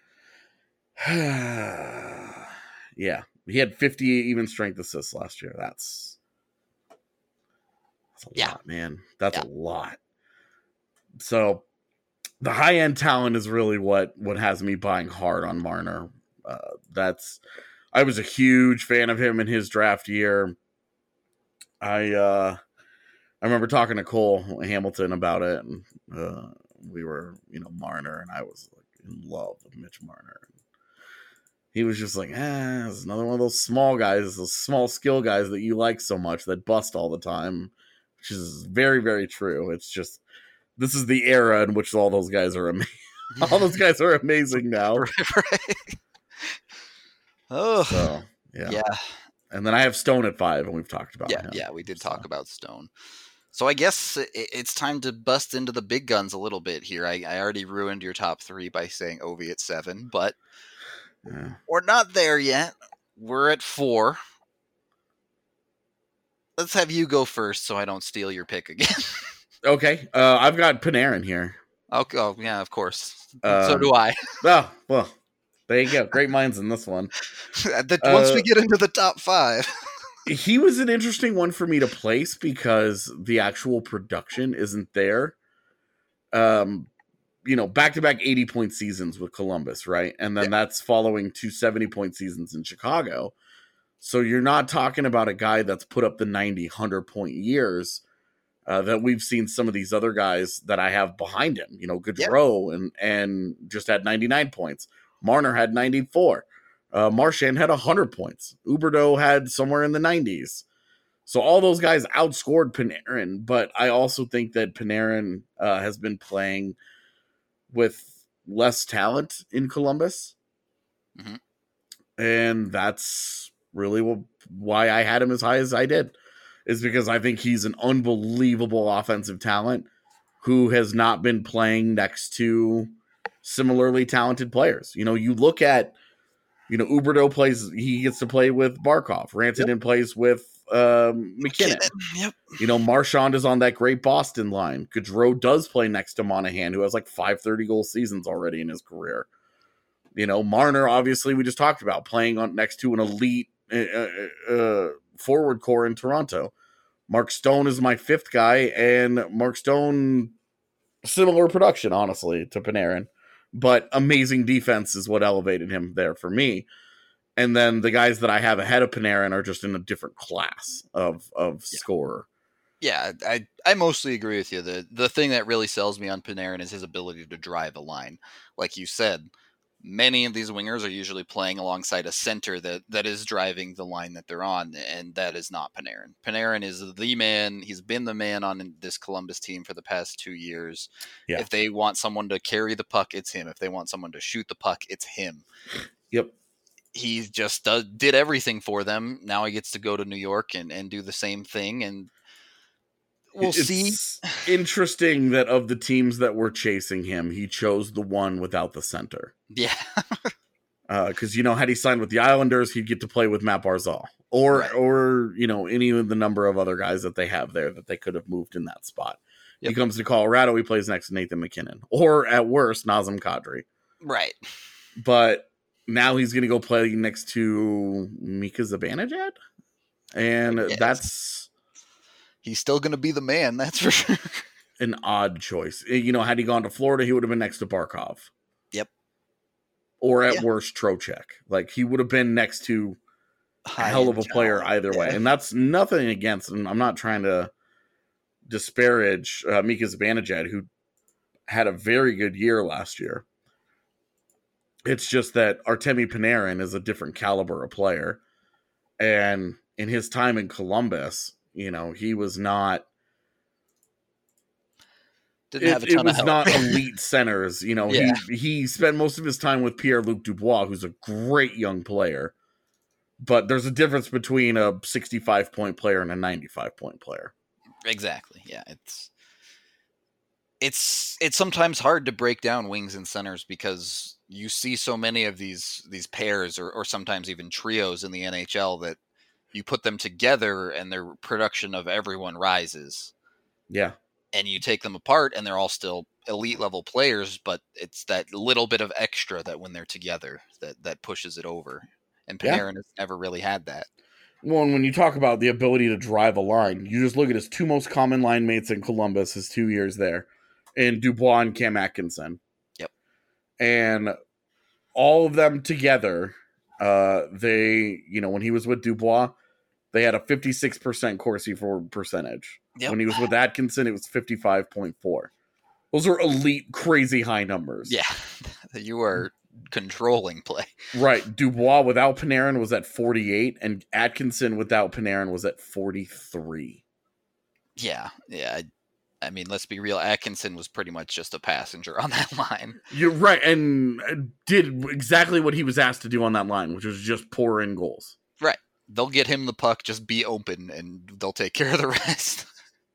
yeah, he had fifty even strength assists last year. That's that's a yeah. lot, man. That's yeah. a lot. So. The high-end talent is really what, what has me buying hard on Marner. Uh, that's I was a huge fan of him in his draft year. I uh, I remember talking to Cole Hamilton about it, and uh, we were, you know, Marner, and I was like in love with Mitch Marner. He was just like, ah, it's another one of those small guys, those small skill guys that you like so much that bust all the time, which is very, very true. It's just, this is the era in which all those guys are amazing. All those guys are amazing now. Right, right. Oh, So, yeah. yeah. And then I have Stone at five, and we've talked about Yeah, him. yeah, we did so. talk about Stone. So I guess it's time to bust into the big guns a little bit here. I, I already ruined your top three by saying Ovi at seven, but Yeah. we're not there yet. We're at four. Let's have you go first so I don't steal your pick again. Okay. Uh, I've got Panarin here. Okay, oh, yeah, of course. Uh, so do I. Oh, well, there you go. Great minds in this one. the, once uh, we get into the top five. He was an interesting one for me to place because the actual production isn't there. Um, you know, back-to-back eighty-point seasons with Columbus, right? And then yeah. that's following two seventy-point seasons in Chicago. So you're not talking about a guy that's put up the ninety, one hundred-point years uh, that we've seen some of these other guys that I have behind him. You know, Gaudreau yeah. and, and just had ninety-nine points. Marner had ninety-four. Uh, Marchand had one hundred points. Huberdeau had somewhere in the nineties. So all those guys outscored Panarin, but I also think that Panarin uh, has been playing with less talent in Columbus. Mm-hmm. And that's really what, why I had him as high as I did, is because I think he's an unbelievable offensive talent who has not been playing next to similarly talented players. You know, you look at, you know, Huberdeau plays, he gets to play with Barkov. Rantanen yep. plays with um, McKinnon. McKinnon. Yep. You know, Marchand is on that great Boston line. Gaudreau does play next to Monahan, who has like five thirty-goal seasons already in his career. You know, Marner, obviously, we just talked about, playing on next to an elite uh, uh, forward core in Toronto. Mark Stone is my fifth guy, and Mark Stone, similar production, honestly, to Panarin. But amazing defense is what elevated him there for me. And then the guys that I have ahead of Panarin are just in a different class of of yeah. scorer. Yeah, I I mostly agree with you. The the thing that really sells me on Panarin is his ability to drive a line. Like you said, many of these wingers are usually playing alongside a center that, that is driving the line that they're on, and that is not Panarin. Panarin is the man. He's been the man on this Columbus team for the past two years. Yeah. If they want someone to carry the puck, it's him. If they want someone to shoot the puck, it's him. Yep. He just does, did everything for them. Now he gets to go to New York and, and do the same thing, and we'll it's see. Interesting that of the teams that were chasing him, he chose the one without the center. Yeah. Because, uh, you know, had he signed with the Islanders, he'd get to play with Matt Barzal. Or, right. or you know, any of the number of other guys that they have there that they could have moved in that spot. Yep. He comes to Colorado, he plays next to Nathan McKinnon. Or, at worst, Nazem Kadri. Right. But now he's going to go play next to Mika Zibanejad. And yes. that's... He's still going to be the man, that's for sure. An odd choice. You know, had he gone to Florida, he would have been next to Barkov. Yep. Or at yeah. worst, Trocheck. Like, he would have been next to a hell of a player either way. Yeah. And that's nothing against him. I'm not trying to disparage uh, Mika Zibanejad, who had a very good year last year. It's just that Artemi Panarin is a different caliber of player. And in his time in Columbus, you know, he was not... Didn't have a ton it, it was of not elite centers. You know, yeah. he he spent most of his time with Pierre-Luc Dubois, who's a great young player. But there's a difference between a sixty-five point player and a ninety-five point player. Exactly. Yeah, it's it's it's sometimes hard to break down wings and centers because you see so many of these these pairs or, or sometimes even trios in the N H L that you put them together and their production of everyone rises. Yeah. And you take them apart and they're all still elite level players, but it's that little bit of extra that when they're together that, that pushes it over. And Panarin yeah. has never really had that. Well, and when you talk about the ability to drive a line, you just look at his two most common line mates in Columbus, his two years there, and Dubois and Cam Atkinson. Yep. And all of them together Uh, they, you know, when he was with Dubois, they had a fifty-six percent Corsi for percentage. Yep. When he was with Atkinson, it was fifty-five point four. Those are elite, crazy high numbers. Yeah, you are controlling play. Right. Dubois without Panarin was at forty-eight, and Atkinson without Panarin was at forty-three. Yeah, yeah. I, I mean, let's be real. Atkinson was pretty much just a passenger on that line. You're right, and did exactly what he was asked to do on that line, which was just pour in goals. Right. They'll get him the puck, just be open, and they'll take care of the rest.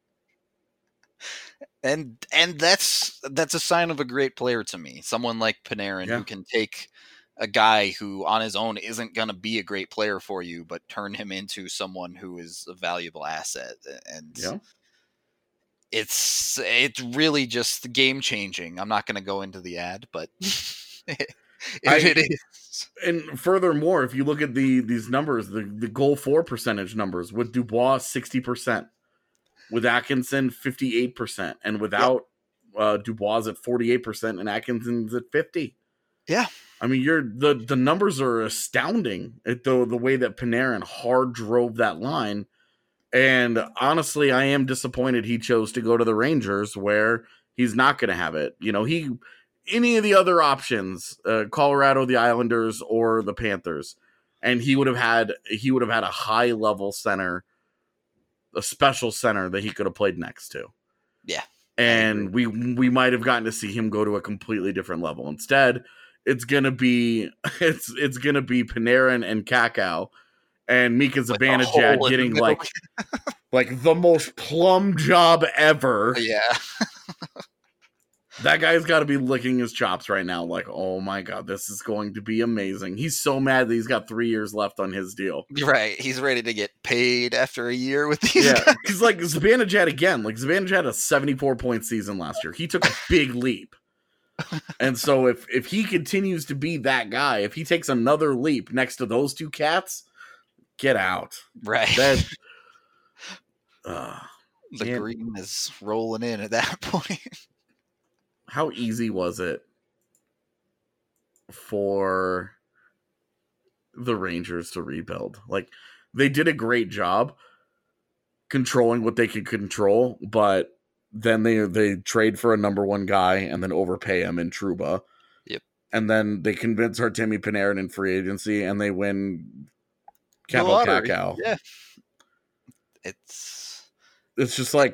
And and that's that's a sign of a great player to me. Someone like Panarin Yeah. who can take a guy who on his own isn't going to be a great player for you, but turn him into someone who is a valuable asset. And Yeah. it's it's really just game changing. I'm not going to go into the ad, but it, I- it is. And furthermore, if you look at the these numbers, the, the goal for percentage numbers, with Dubois sixty percent, with Atkinson fifty-eight percent, and without uh, Dubois at forty-eight percent and Atkinson's at fifty. Yeah. I mean, you're the, the numbers are astounding at the the way that Panarin hard drove that line. And honestly, I am disappointed he chose to go to the Rangers, where he's not going to have it. You know, he any of the other options, uh, Colorado, the Islanders, or the Panthers, and he would have had he would have had a high level center, a special center that he could have played next to. Yeah. And we we might have gotten to see him go to a completely different level. Instead, it's gonna be it's it's gonna be Panarin and Kakao and Mika With a Zibanejad hole in the getting middle. like like the most plum job ever. Yeah. That guy's got to be licking his chops right now. Like, oh my god, this is going to be amazing. He's so mad that he's got three years left on his deal. Right. He's ready to get paid after a year with these Yeah, guys. because like Zibanejad again, like Zibanejad had a seventy-four point season last year. He took a big leap, and so if if he continues to be that guy, if he takes another leap next to those two cats, get out. Right. That uh, the man. green is rolling in at that point. How easy was it for the Rangers to rebuild? Like, they did a great job controlling what they could control, but then they they trade for a number one guy and then overpay him in Trouba. Yep. And then they convince Artemi Panarin in free agency, and they win The Capo lottery. Kakao. Yeah. It's It's just like,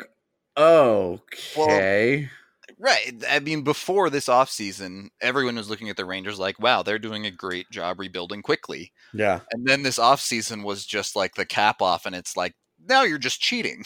okay. right. I mean, before this offseason, everyone was looking at the Rangers like, wow, they're doing a great job rebuilding quickly. Yeah. And then this offseason was just like the cap off, and it's like, now you're just cheating.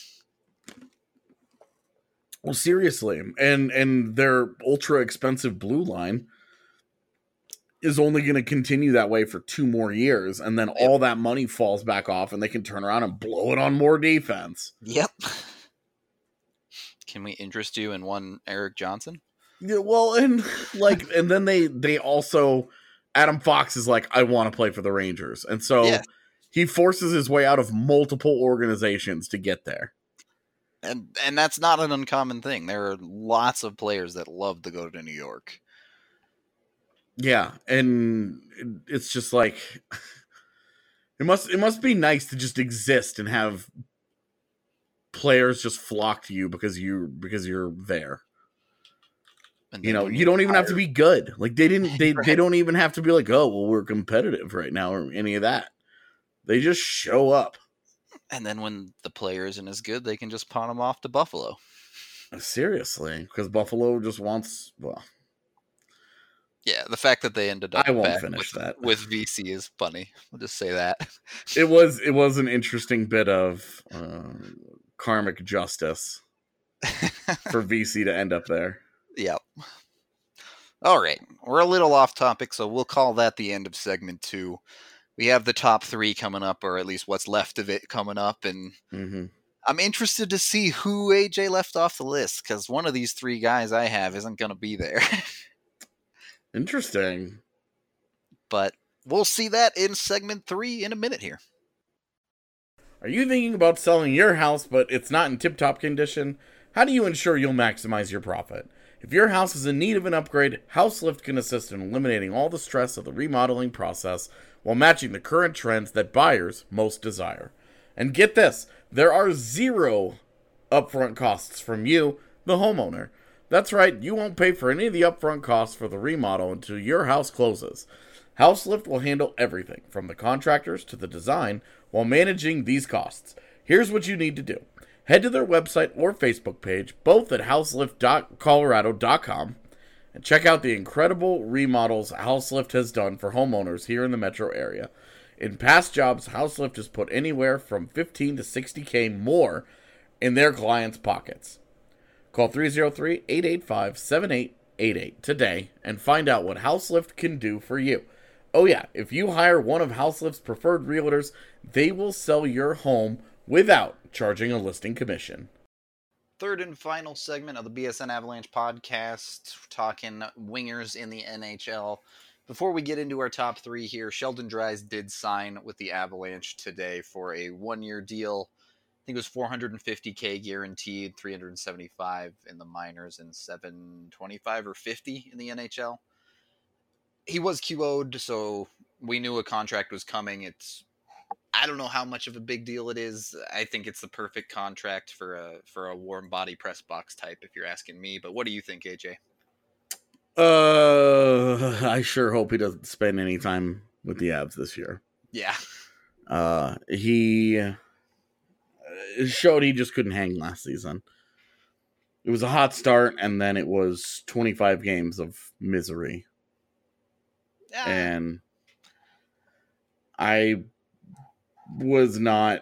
Well, seriously, and and their ultra expensive blue line is only going to continue that way for two more years, and then all that money falls back off, and they can turn around and blow it on more defense. Yep. Can we interest you in one Eric Johnson? Yeah, well, and like, and then they they also Adam Fox is like, I want to play for the Rangers, and so Yeah. he forces his way out of multiple organizations to get there. And and that's not an uncommon thing. There are lots of players that love to go to New York. Yeah, and it's just like it must it must be nice to just exist and have players just flock to you because you because you're there. And You then know, when you don't even have to hire- be good. Like they didn't they, they Right. don't even have to be like, "Oh, well, we're competitive right now," or any of that. They just show up. And then when the player isn't as good, they can just pawn him off to Buffalo. Seriously, because Buffalo just wants well, Yeah, the fact that they ended up I won't back finish with, that. with V C is funny. I'll just say that. it was it was an interesting bit of uh, karmic justice for V C to end up there. Yep. All right. We're a little off topic, so we'll call that the end of segment two. We have the top three coming up, or at least what's left of it coming up, and Mm-hmm. I'm interested to see who A J left off the list, because one of these three guys I have isn't going to be there. Interesting. But we'll see that in segment three in a minute here. Are you thinking about selling your house, but it's not in tip-top condition? How do you ensure you'll maximize your profit? If your house is in need of an upgrade, HouseLift can assist in eliminating all the stress of the remodeling process while matching the current trends that buyers most desire. And get this, there are zero upfront costs from you, the homeowner. That's right, you won't pay for any of the upfront costs for the remodel until your house closes. Houselift will handle everything, from the contractors to the design, while managing these costs. Here's what you need to do. Head to their website or Facebook page, both at houselift dot colorado dot com, and check out the incredible remodels Houselift has done for homeowners here in the metro area. In past jobs, Houselift has put anywhere from fifteen to sixty K more in their clients' pockets. Call three oh three, eight eight five, seven eight eight eight today and find out what Houselift can do for you. Oh yeah, if you hire one of Houselift's preferred realtors, they will sell your home without charging a listing commission. Third and final segment of the B S N Avalanche podcast, talking wingers in the N H L. Before we get into our top three here, Sheldon Dries did sign with the Avalanche today for a one-year deal. I think it was four hundred fifty K guaranteed, three hundred seventy-five in the minors, and seven twenty-five or fifty in the N H L. He was Q O'd, so we knew a contract was coming. It's, I don't know how much of a big deal it is. I think it's the perfect contract for a for a warm body press box type, if you're asking me. But what do you think, A J? Uh, I sure hope he doesn't spend any time with the Avs this year. Yeah. Uh, he showed he just couldn't hang last season. It was a hot start, and then it was twenty-five games of misery. Yeah. And I was not...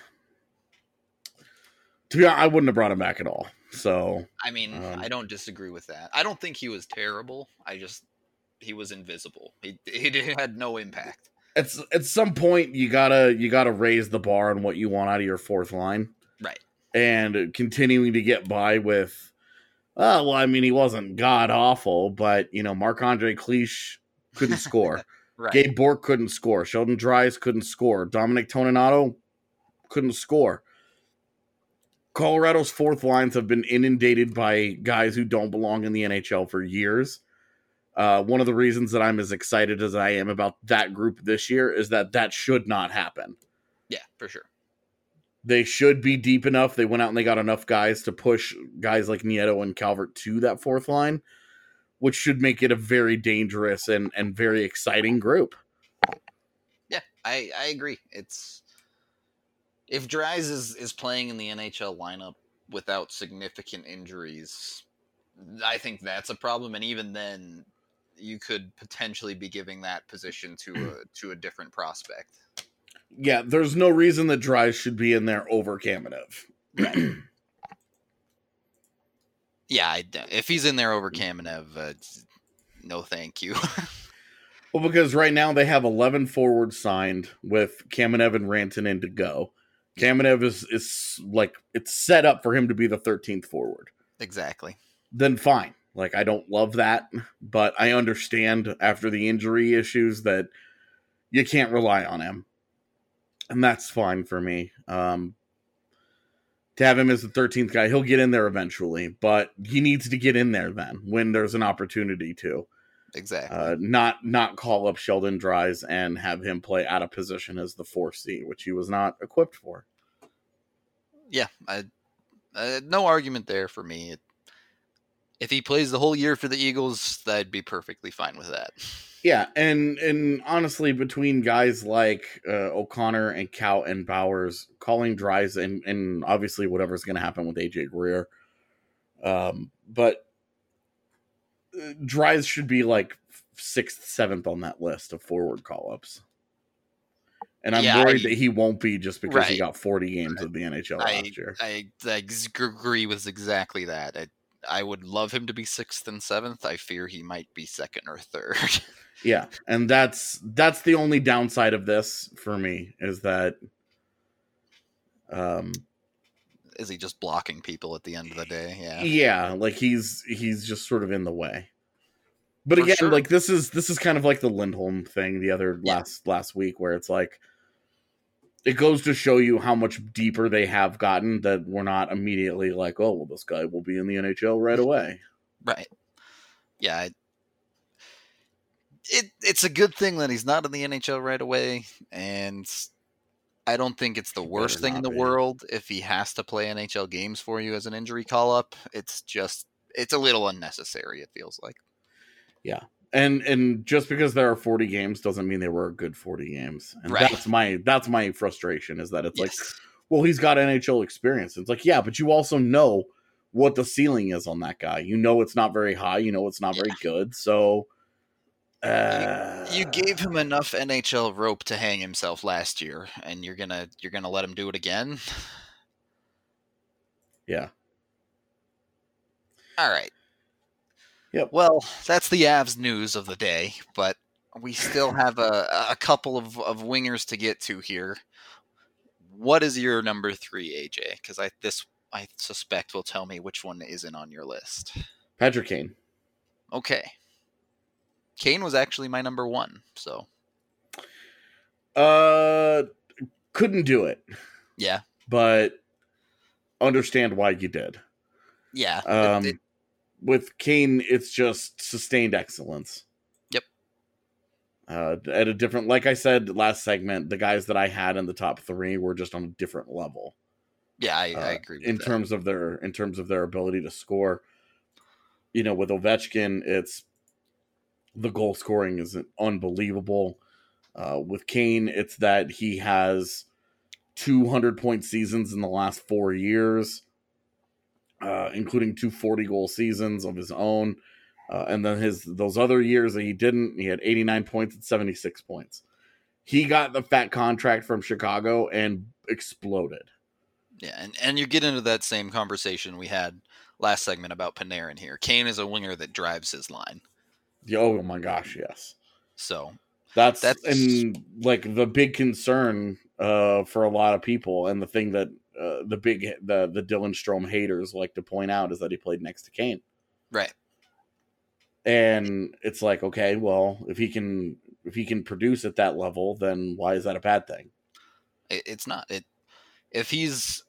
To be honest, I wouldn't have brought him back at all. So I mean, um, I don't disagree with that. I don't think he was terrible. I just, he was invisible. He he had no impact. At at some point, you gotta you gotta raise the bar on what you want out of your fourth line, right? And continuing to get by with, oh well, I mean, he wasn't god awful, but you know, Marc-Andre Cliche couldn't score. Right. Gabe Bourque couldn't score. Sheldon Dries couldn't score. Dominic Toninato couldn't score. Colorado's fourth lines have been inundated by guys who don't belong in the N H L for years. Uh, one of the reasons that I'm as excited as I am about that group this year is that that should not happen. Yeah, for sure. They should be deep enough. They went out and they got enough guys to push guys like Nieto and Calvert to that fourth line, which should make it a very dangerous and, and very exciting group. Yeah, I, I agree. It's... If Dries is, is playing in the N H L lineup without significant injuries, I think that's a problem. And even then, you could potentially be giving that position to a, to a different prospect. Yeah, there's no reason that Dries should be in there over Kamenev. Right. Yeah, I, if he's in there over Kamenev, uh, no thank you. Well, because right now they have eleven forwards signed with Kamenev and Rantanen to go. Kamenev is, is like, it's set up for him to be the thirteenth forward. Exactly. Then fine. Like, I don't love that, but I understand after the injury issues that you can't rely on him. And that's fine for me. Um, to have him as the thirteenth guy, he'll get in there eventually, but he needs to get in there then when there's an opportunity to. Exactly. Uh, not not call up Sheldon Dries and have him play out of position as the four C, which he was not equipped for. Yeah, I, uh, no argument there for me. It, if he plays the whole year for the Eagles, I'd be perfectly fine with that. Yeah, and and honestly, between guys like uh, O'Connor and Cow and Bowers, calling Dries and, and obviously whatever's going to happen with A J Greer, um, but Dries should be like sixth, seventh on that list of forward call-ups. And I'm yeah, worried I, that he won't be just because right. he got forty games of the N H L I, last year. I, I agree with exactly that. I, I would love him to be sixth and seventh. I fear he might be second or third. Yeah, and that's that's the only downside of this for me is that um is he just blocking people at the end of the day? Yeah. Yeah, like he's he's just sort of in the way. But For again, sure. like this is this is kind of like the Lindholm thing the other Yeah. last last week where it's like it goes to show you how much deeper they have gotten that we're not immediately like, oh, well, this guy will be in the N H L right away. Right. Yeah. I, it it's a good thing that he's not in the N H L right away, and I don't think it's the He worst better thing in not the be. world if he has to play N H L games for you as an injury call-up. It's just, it's a little unnecessary, it feels like. Yeah. And and just because there are forty games doesn't mean they were good forty games. And Right. that's my that's my frustration is that it's like, Yes. well, he's got N H L experience. It's like, yeah, but you also know what the ceiling is on that guy. You know it's not very high. You know it's not very good. So uh, You gave him enough N H L rope to hang himself last year, and you're gonna you're gonna let him do it again? Yeah. All right. Yep. Well, that's the Avs news of the day, but we still have a, a couple of, of wingers to get to here. What is your number three, A J? Because I this I suspect will tell me which one isn't on your list. Patrick Kane. Okay. Kane was actually my number one, so. Uh, couldn't do it, Yeah. but understand why you did. Yeah. Um, it, it, with Kane, it's just sustained excellence. Yep. Uh, at a different, like I said last segment, the guys that I had in the top three were just on a different level. yeah, I, uh, I agree with in that. terms of their in terms of their ability to score. You know, with Ovechkin, it's the goal scoring is unbelievable. Uh, with Kane, it's that he has two hundred point seasons in the last four years, uh, including two forty goal seasons of his own. Uh, and then his those other years that he didn't, he had eighty-nine points and seventy-six points. He got the fat contract from Chicago and exploded. Yeah, and, and you get into that same conversation we had last segment about Panarin here. Kane is a winger that drives his line. Oh my gosh, yes. So That's, That's- and like the big concern uh, for a lot of people, and the thing that uh, the big the the Dylan Strome haters like to point out is that he played next to Kane, right. and it's like, okay, well, if he can if he can produce at that level, then why is that a bad thing? It, it's not. It if he's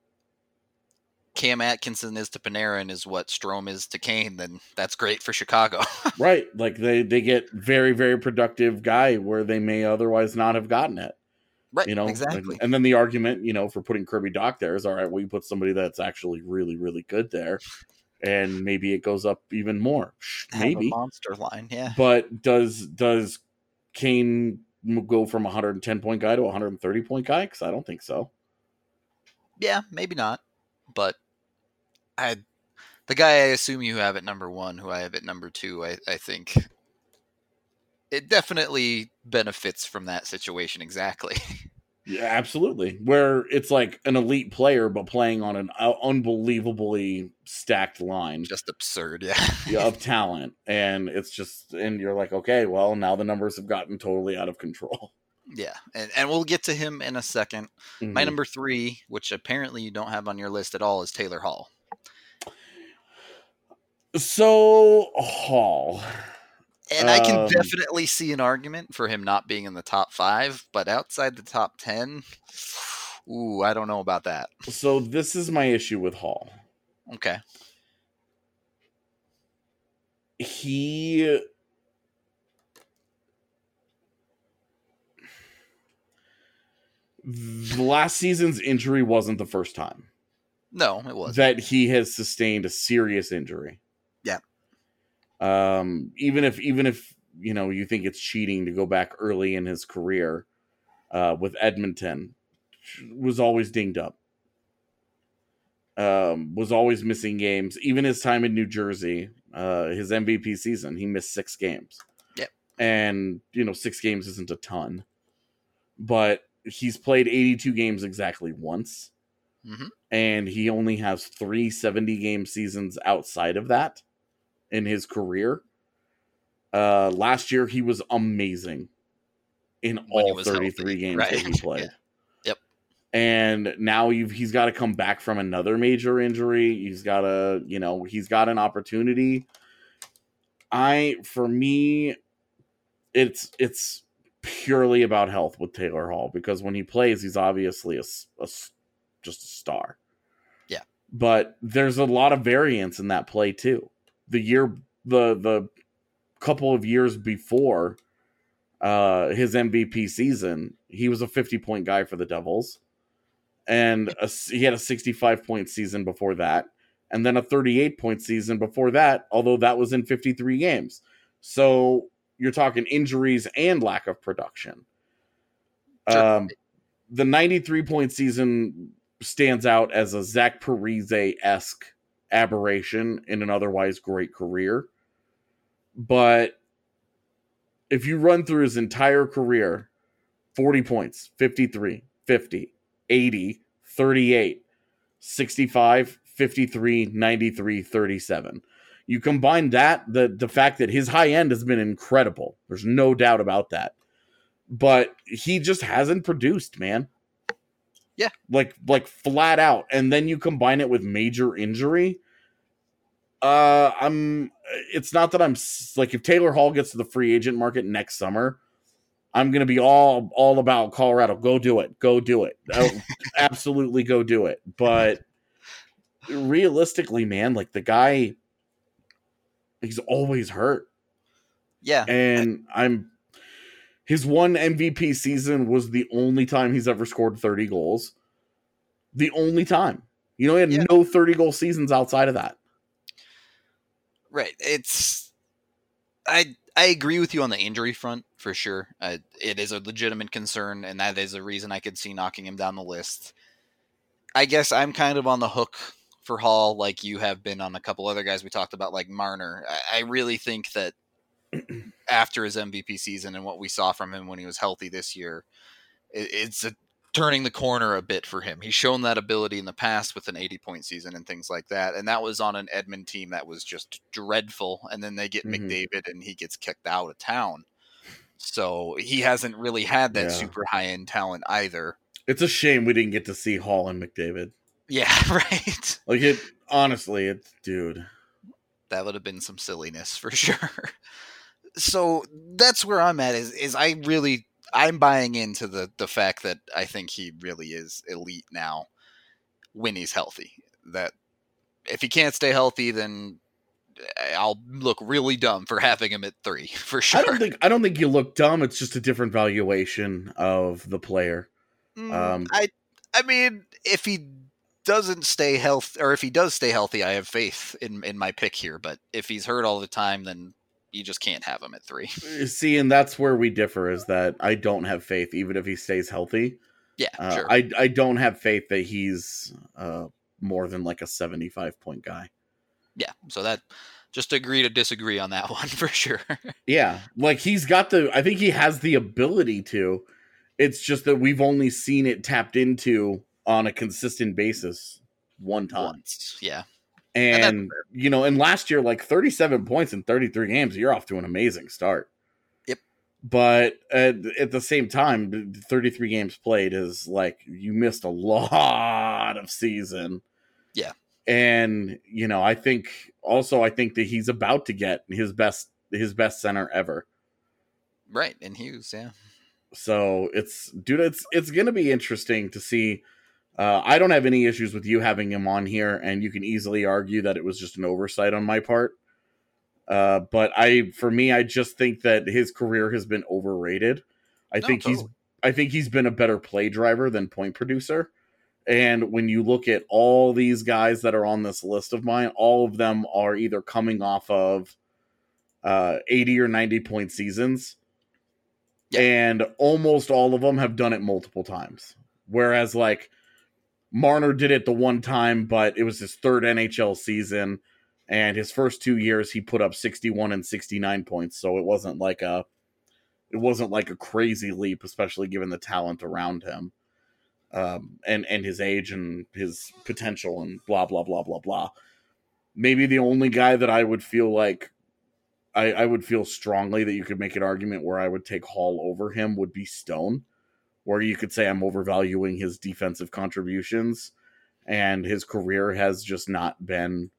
Cam Atkinson is to Panarin is what Strome is to Kane, then that's great for Chicago. Right, like they they get very very productive guy where they may otherwise not have gotten it. Right, You know, exactly. And, and then the argument, you know, for putting Kirby Doc there is, all right, well, you put somebody that's actually really, really good there, and maybe it goes up even more. Have a Maybe. monster line, yeah. But does does Kane go from a one hundred ten point guy to a one hundred thirty point guy? Because I don't think so. Yeah, maybe not. But I, the guy I assume you have at number one, who I have at number two, I, I think it definitely benefits from that situation exactly. Yeah, absolutely. Where it's like an elite player, but playing on an uh, unbelievably stacked line. Just absurd, yeah. Yeah, of talent, and it's just, and you're like, okay, well, now the numbers have gotten totally out of control. Yeah, and, and we'll get to him in a second. Mm-hmm. My number three, which apparently you don't have on your list at all, is Taylor Hall. So Hall, And I can Um, definitely see an argument for him not being in the top five, but outside the top ten, ooh, I don't know about that. so this is my issue with Hall. Okay. He the last season's injury wasn't the first time No, it wasn't. that he has sustained a serious injury. Yeah. Um, even if even if you know you think it's cheating to go back early in his career, uh, with Edmonton, was always dinged up. Um, was always missing games. Even his time in New Jersey, uh, his M V P season, he missed six games. Yep. And you know, six games isn't a ton, but he's played eighty-two games exactly once. Mm-hmm. And he only has three seventy-game seasons outside of that in his career. Uh, last year, he was amazing in When he all was thirty-three healthy, games right. that he played. Yeah. Yep. And now you've, he's got to come back from another major injury. He's got to, you know, he's got an opportunity. I, for me, it's it's purely about health with Taylor Hall, because when he plays, he's obviously a, a just a star. Yeah. But there's a lot of variance in that play too. The year, the the couple of years before uh, his M V P season, he was a fifty-point guy for the Devils. And a, he had a sixty-five point season before that. And then a thirty-eight point season before that, although that was in fifty-three games. So you're talking injuries and lack of production. Sure. Um, the ninety-three point season stands out as a Zach Parise-esque aberration in an otherwise great career. But if you run through his entire career, forty points, fifty-three, fifty, eighty, thirty-eight, sixty-five, fifty-three, ninety-three, thirty-seven. You combine that, the, the fact that his high end has been incredible. There's no doubt about that. But he just hasn't produced, man. Yeah. Like, like flat out. And then you combine it with major injury. Uh, I'm, it's not that I'm, like, if Taylor Hall gets to the free agent market next summer, I'm going to be all, all about Colorado. Go do it. Go do it. Absolutely go do it. But realistically, man, like the guy, he's always hurt. Yeah. And I, I'm, his one M V P season was the only time he's ever scored thirty goals. The only time. You know, he had yeah. no thirty goal seasons outside of that. Right. It's, I, I agree with you on the injury front for sure. Uh, it is a legitimate concern, and that is a reason I could see knocking him down the list. I guess I'm kind of on the hook for Hall, like you have been on a couple other guys we talked about, like Marner. I, I really think that after his M V P season and what we saw from him when he was healthy this year, it, it's a, turning the corner a bit for him. He's shown that ability in the past with an eighty point season and things like that. And that was on an Edmund team that was just dreadful. And then they get mm-hmm. McDavid and he gets kicked out of town. So he hasn't really had that yeah. super high end talent either. It's a shame we didn't get to see Hall and McDavid. Yeah, right. Like it, honestly, it's dude. That would have been some silliness for sure. So that's where I'm at is, is I really, I'm buying into the, the fact that I think he really is elite now when he's healthy. That if he can't stay healthy, then I'll look really dumb for having him at three for sure. I don't think, I don't think you look dumb. It's just a different valuation of the player. Mm, um, I, I mean, if he doesn't stay healthy, or if he does stay healthy, I have faith in, in my pick here. But if he's hurt all the time, then you just can't have him at three. See, and that's where we differ, is that I don't have faith, even if he stays healthy. Yeah, uh, sure. I, I don't have faith that he's uh, more than like a seventy-five point guy. Yeah, so that, just agree to disagree on that one for sure. Yeah, like he's got the, I think he has the ability to. It's just that we've only seen it tapped into on a consistent basis one time. Once, yeah. And, and you know, and last year, like thirty-seven points in thirty-three games, you're off to an amazing start. Yep. But at, at the same time, thirty-three games played is like, you missed a lot of season. Yeah. And, you know, I think also, I think that he's about to get his best, his best center ever. Right. And Hughes. Yeah. So it's, dude, it's, it's going to be interesting to see. Uh, I don't have any issues with you having him on here, and you can easily argue that it was just an oversight on my part. Uh, but I, for me, I just think that his career has been overrated. I no, think totally. he's, I think he's been a better play driver than point producer. And when you look at all these guys that are on this list of mine, all of them are either coming off of uh, eighty or ninety point seasons. Yeah. And almost all of them have done it multiple times. Whereas like Marner did it the one time, but it was his third N H L season. And his first two years, he put up sixty-one and sixty-nine points. So it wasn't like a, it wasn't like a crazy leap, especially given the talent around him. Um, and, and his age and his potential and blah, blah, blah, blah, blah. Maybe the only guy that I would feel like I, I would feel strongly that you could make an argument where I would take Hall over him would be Stone, where you could say I'm overvaluing his defensive contributions and his career has just not been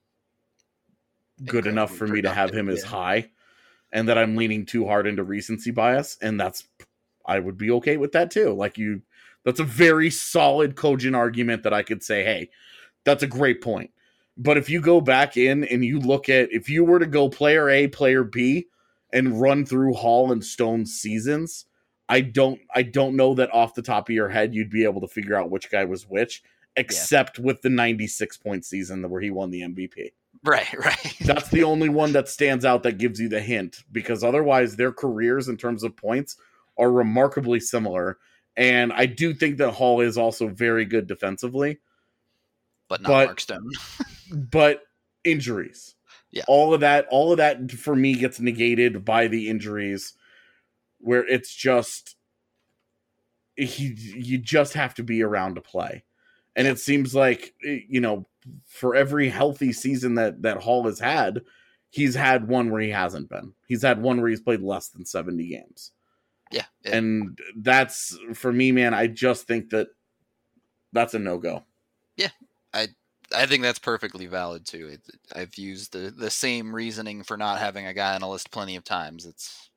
good enough for me to have him as high, and that I'm leaning too hard into recency bias. And that's, I would be okay with that too. Like you, that's a very solid, cogent argument that I could say, hey, that's a great point. But if you go back in and you look at, if you were to go player A, player B, and run through Hall and Stone's seasons, I don't, I don't know that off the top of your head you'd be able to figure out which guy was which, except yeah. with the ninety-six point season where he won the M V P. Right, right. That's the only one that stands out that gives you the hint, because otherwise their careers in terms of points are remarkably similar. And I do think that Hall is also very good defensively. But not but, Mark Stone. But injuries. Yeah. All of that, all of that for me gets negated by the injuries, where it's just, he, you just have to be around to play. And it seems like, you know, for every healthy season that, that Hall has had, he's had one where he hasn't been. He's had one where he's played less than seventy games. Yeah. yeah. And that's, for me, man, I just think that that's a no-go. Yeah. I I think that's perfectly valid, too. It, I've used the, the same reasoning for not having a guy on a list plenty of times. It's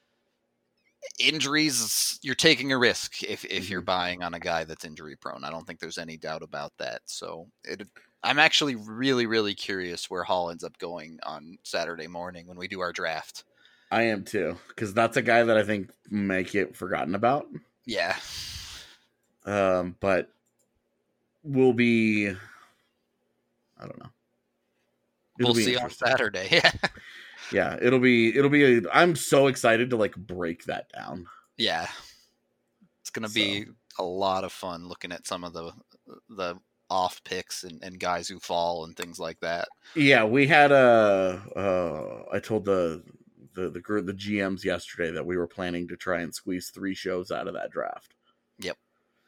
injuries, you're taking a risk if, if you're buying on a guy that's injury prone. I don't think there's any doubt about that. So it, I'm actually really, really curious where Hall ends up going on Saturday morning when we do our draft. I am too, because that's a guy that I think may get forgotten about. Yeah. Um, but will be, I don't know. It'll we'll see on Saturday. Yeah. Yeah, it'll be, it'll be, a, I'm so excited to like break that down. Yeah. It's going to so. be a lot of fun looking at some of the, the off picks and, and guys who fall and things like that. Yeah. We had a, uh, I told the, the, the group, the G Ms yesterday that we were planning to try and squeeze three shows out of that draft. Yep.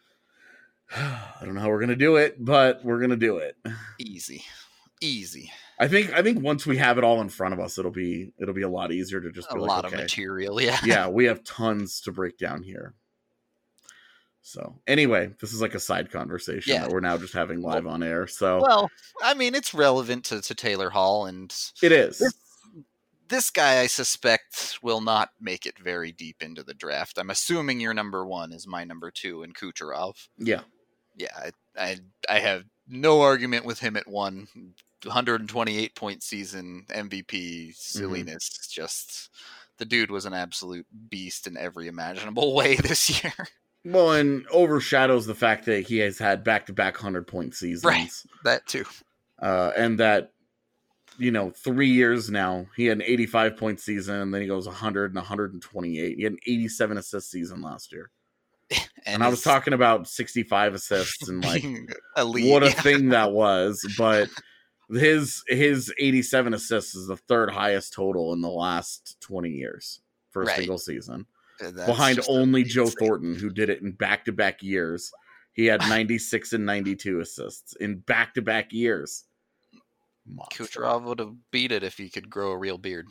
I don't know how we're going to do it, but we're going to do it. Easy. Easy. I think I think once we have it all in front of us, it'll be it'll be a lot easier to just a be lot like, of okay, material. Yeah, yeah, we have tons to break down here. So anyway, this is like a side conversation yeah. that we're now just having live well, on air. So well, I mean, it's relevant to, to Taylor Hall, and it is. This, this guy, I suspect, will not make it very deep into the draft. I'm assuming your number one is my number two in Kucherov. Yeah, yeah, I I, I have no argument with him at one. one hundred twenty-eight point season, M V P, silliness. Mm-hmm. Just the dude was an absolute beast in every imaginable way this year. Well, and overshadows the fact that he has had back-to-back one hundred point seasons. Right, that too. Uh, and that, you know, three years now, he had an eighty-five point season, and then he goes one hundred and one hundred twenty-eight. He had an eighty-seven assist season last year. And, and I was talking about sixty-five assists and like elite, what a yeah. thing that was, but his his eighty-seven assists is the third highest total in the last twenty years for a right. single season. That's behind only Joe insane. Thornton, who did it in back-to-back years. He had ninety-six and ninety-two assists in back-to-back years. Monster. Kucherov would have beat it if he could grow a real beard.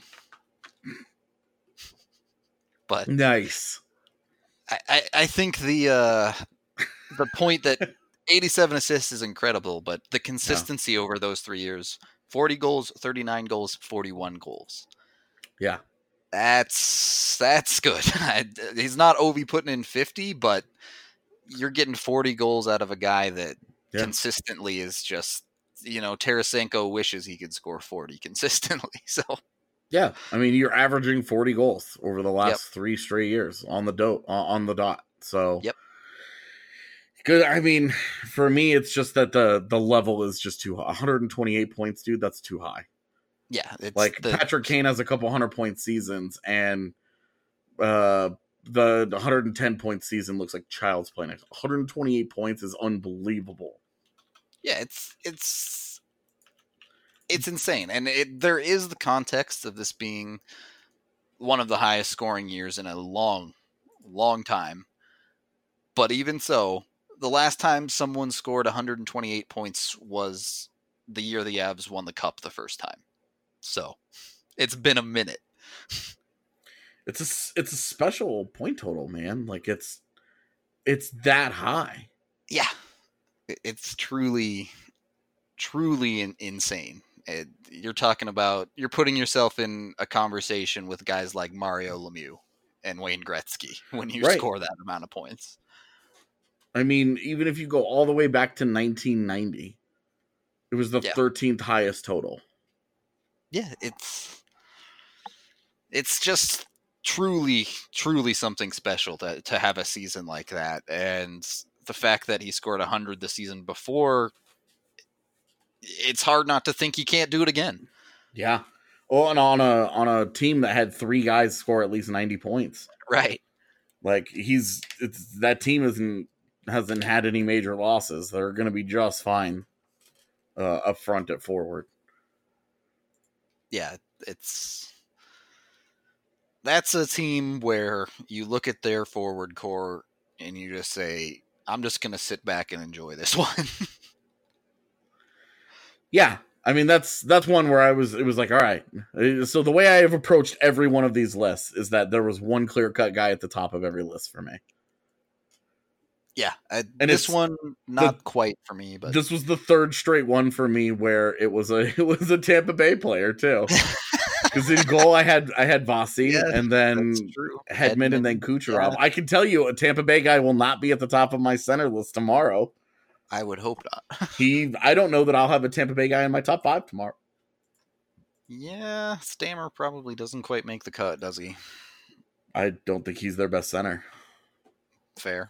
But nice. I, I, I think the uh, the point that eighty-seven assists is incredible, but the consistency yeah. over those three years, forty goals, thirty-nine goals, forty-one goals. Yeah. That's that's good. He's not Ovi putting in fifty, but you're getting forty goals out of a guy that yeah. consistently is just, you know, Tarasenko wishes he could score forty consistently. So yeah, I mean, you're averaging forty goals over the last yep. three straight years on the dot on the dot. So yep. Good. I mean, for me, it's just that the the level is just too high. one hundred twenty-eight points, dude. That's too high. Yeah, it's like the... Patrick Kane has a couple hundred point seasons, and uh, the, the one hundred ten point season looks like child's play. one hundred twenty-eight points is unbelievable. Yeah, it's it's it's insane, and it, there is the context of this being one of the highest scoring years in a long, long time. But even so, the last time someone scored one hundred twenty-eight points was the year the Avs won the Cup the first time. So it's been a minute. It's a, it's a special point total, man. Like it's, it's that high. Yeah. It's truly, truly in, insane. It, you're talking about, you're putting yourself in a conversation with guys like Mario Lemieux and Wayne Gretzky when you right. score that amount of points. I mean, even if you go all the way back to nineteen ninety, It was the Yeah. thirteenth highest total. Yeah, it's it's just truly, truly something special to to have a season like that. And the fact that he scored one hundred the season before, it's hard not to think he can't do it again. Yeah. Oh, and on a on a team that had three guys score at least ninety points. Right. Like he's it's that team isn't hasn't had any major losses. They're going to be just fine uh, up front at forward. Yeah, it's that's a team where you look at their forward core and you just say, I'm just going to sit back and enjoy this one. Yeah. I mean, that's that's one where I was, it was like, all right. So the way I have approached every one of these lists is that there was one clear-cut guy at the top of every list for me. Yeah, I, And this it's one, not the- quite for me, but This was the third straight one for me where it was a it was a Tampa Bay player too. Because in goal I had I had Vasi Yeah, and then that's true. Hedman and then Kucherov. yeah. I can tell you a Tampa Bay guy will not be at the top of my center list tomorrow. I would hope not. He I don't know that I'll have a Tampa Bay guy in my top five tomorrow. Yeah, Stammer probably doesn't quite make the cut, does he? I don't think he's their best center. Fair.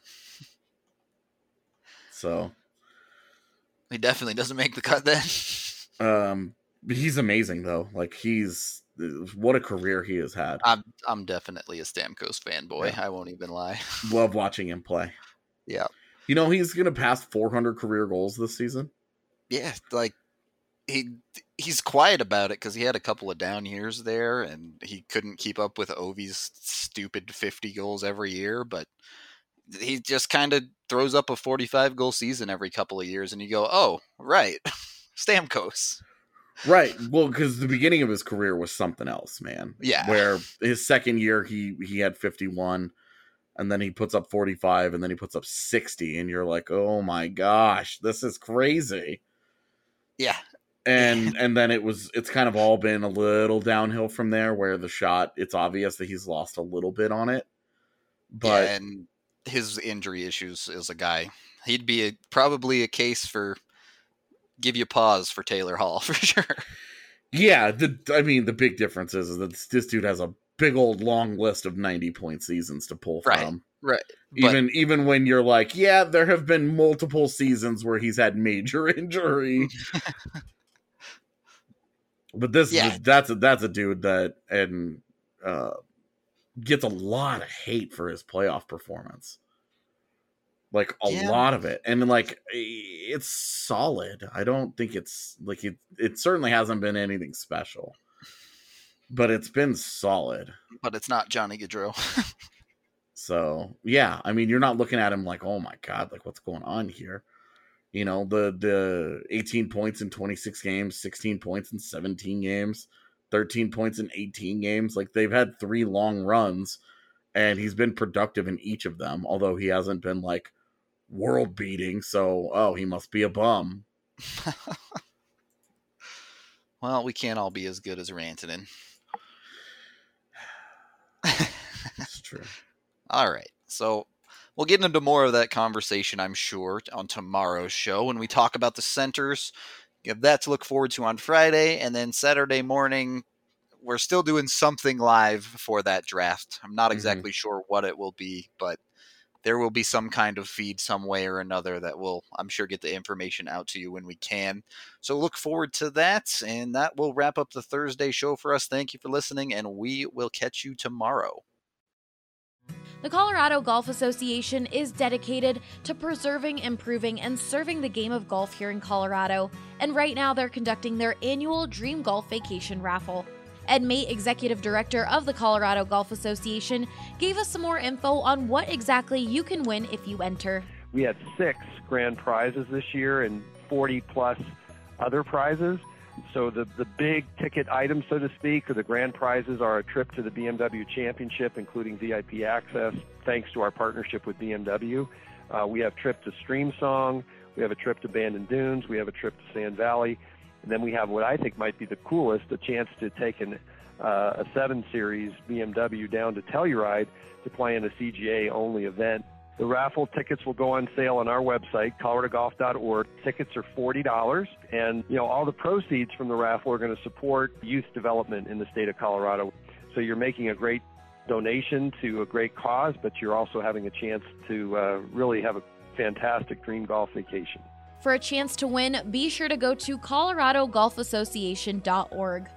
So He definitely doesn't make the cut then. um but he's amazing though. Like he's what a career he has had. I'm I'm definitely a Stamkos fanboy. Yeah. I won't even lie. Love watching him play. Yeah. You know he's gonna pass four hundred career goals this season. Yeah, like he he's quiet about it because he had a couple of down years there, and he couldn't keep up with Ovi's stupid fifty goals every year. But he just kind of throws up a forty-five goal season every couple of years, and you go, "Oh, right, Stamkos." Right. Well, because the beginning of his career was something else, man. Yeah. Where his second year he he had fifty-one, and then he puts up forty-five, and then he puts up sixty, and you're like, oh my gosh, this is crazy. Yeah, And and then it was it's kind of all been a little downhill from there, where the shot, it's obvious that he's lost a little bit on it. But yeah, and his injury issues as a guy, he'd be a, probably a case for give you pause for Taylor Hall for sure. yeah, the I mean the big difference is, is that this dude has a big old long list of ninety point seasons to pull Right. from. Right. But Even even when you're like, yeah, there have been multiple seasons where he's had major injury. But this Yeah. is that's a that's a dude that and uh gets a lot of hate for his playoff performance. Like a Yeah. lot of it. And like it's solid. I don't think it's like it it certainly hasn't been anything special. But it's been solid. but it's not Johnny Gaudreau. So yeah, I mean, you're not looking at him like, oh my god, like what's going on here? You know, the the eighteen points in twenty-six games, sixteen points in seventeen games, thirteen points in eighteen games. Like they've had three long runs, and he's been productive in each of them. Although he hasn't been like world beating. So oh, he must be a bum. Well, we can't all be as good as Rantanen. It's true. All right. So we'll get into more of that conversation, I'm sure, on tomorrow's show when we talk about the centers. You have that to look forward to on Friday. And then Saturday morning, we're still doing something live for that draft. I'm not exactly sure what it will be, but there will be some kind of feed some way or another that will, I'm sure, get the information out to you when we can. So look forward to that. And that will wrap up the Thursday show for us. Thank you for listening, and we will catch you tomorrow. The Colorado Golf Association is dedicated to preserving, improving, and serving the game of golf here in Colorado, and right now they're conducting their annual Dream Golf Vacation Raffle. Ed Mate, Executive Director of the Colorado Golf Association, gave us some more info on what exactly you can win if you enter. We had six grand prizes this year and forty plus other prizes. So the, the big ticket items, so to speak, or the grand prizes are a trip to the B M W Championship, including V I P access, thanks to our partnership with B M W. Uh, we have a trip to Streamsong. We have a trip to Bandon Dunes. We have a trip to Sand Valley. And then we have what I think might be the coolest, a chance to take an, uh, a seven series B M W down to Telluride to play in a C G A-only event The raffle tickets will go on sale on our website, colorado golf dot org. Tickets are forty dollars, and you know all the proceeds from the raffle are going to support youth development in the state of Colorado. So you're making a great donation to a great cause, but you're also having a chance to uh, really have a fantastic dream golf vacation. For a chance to win, be sure to go to colorado golf association dot org.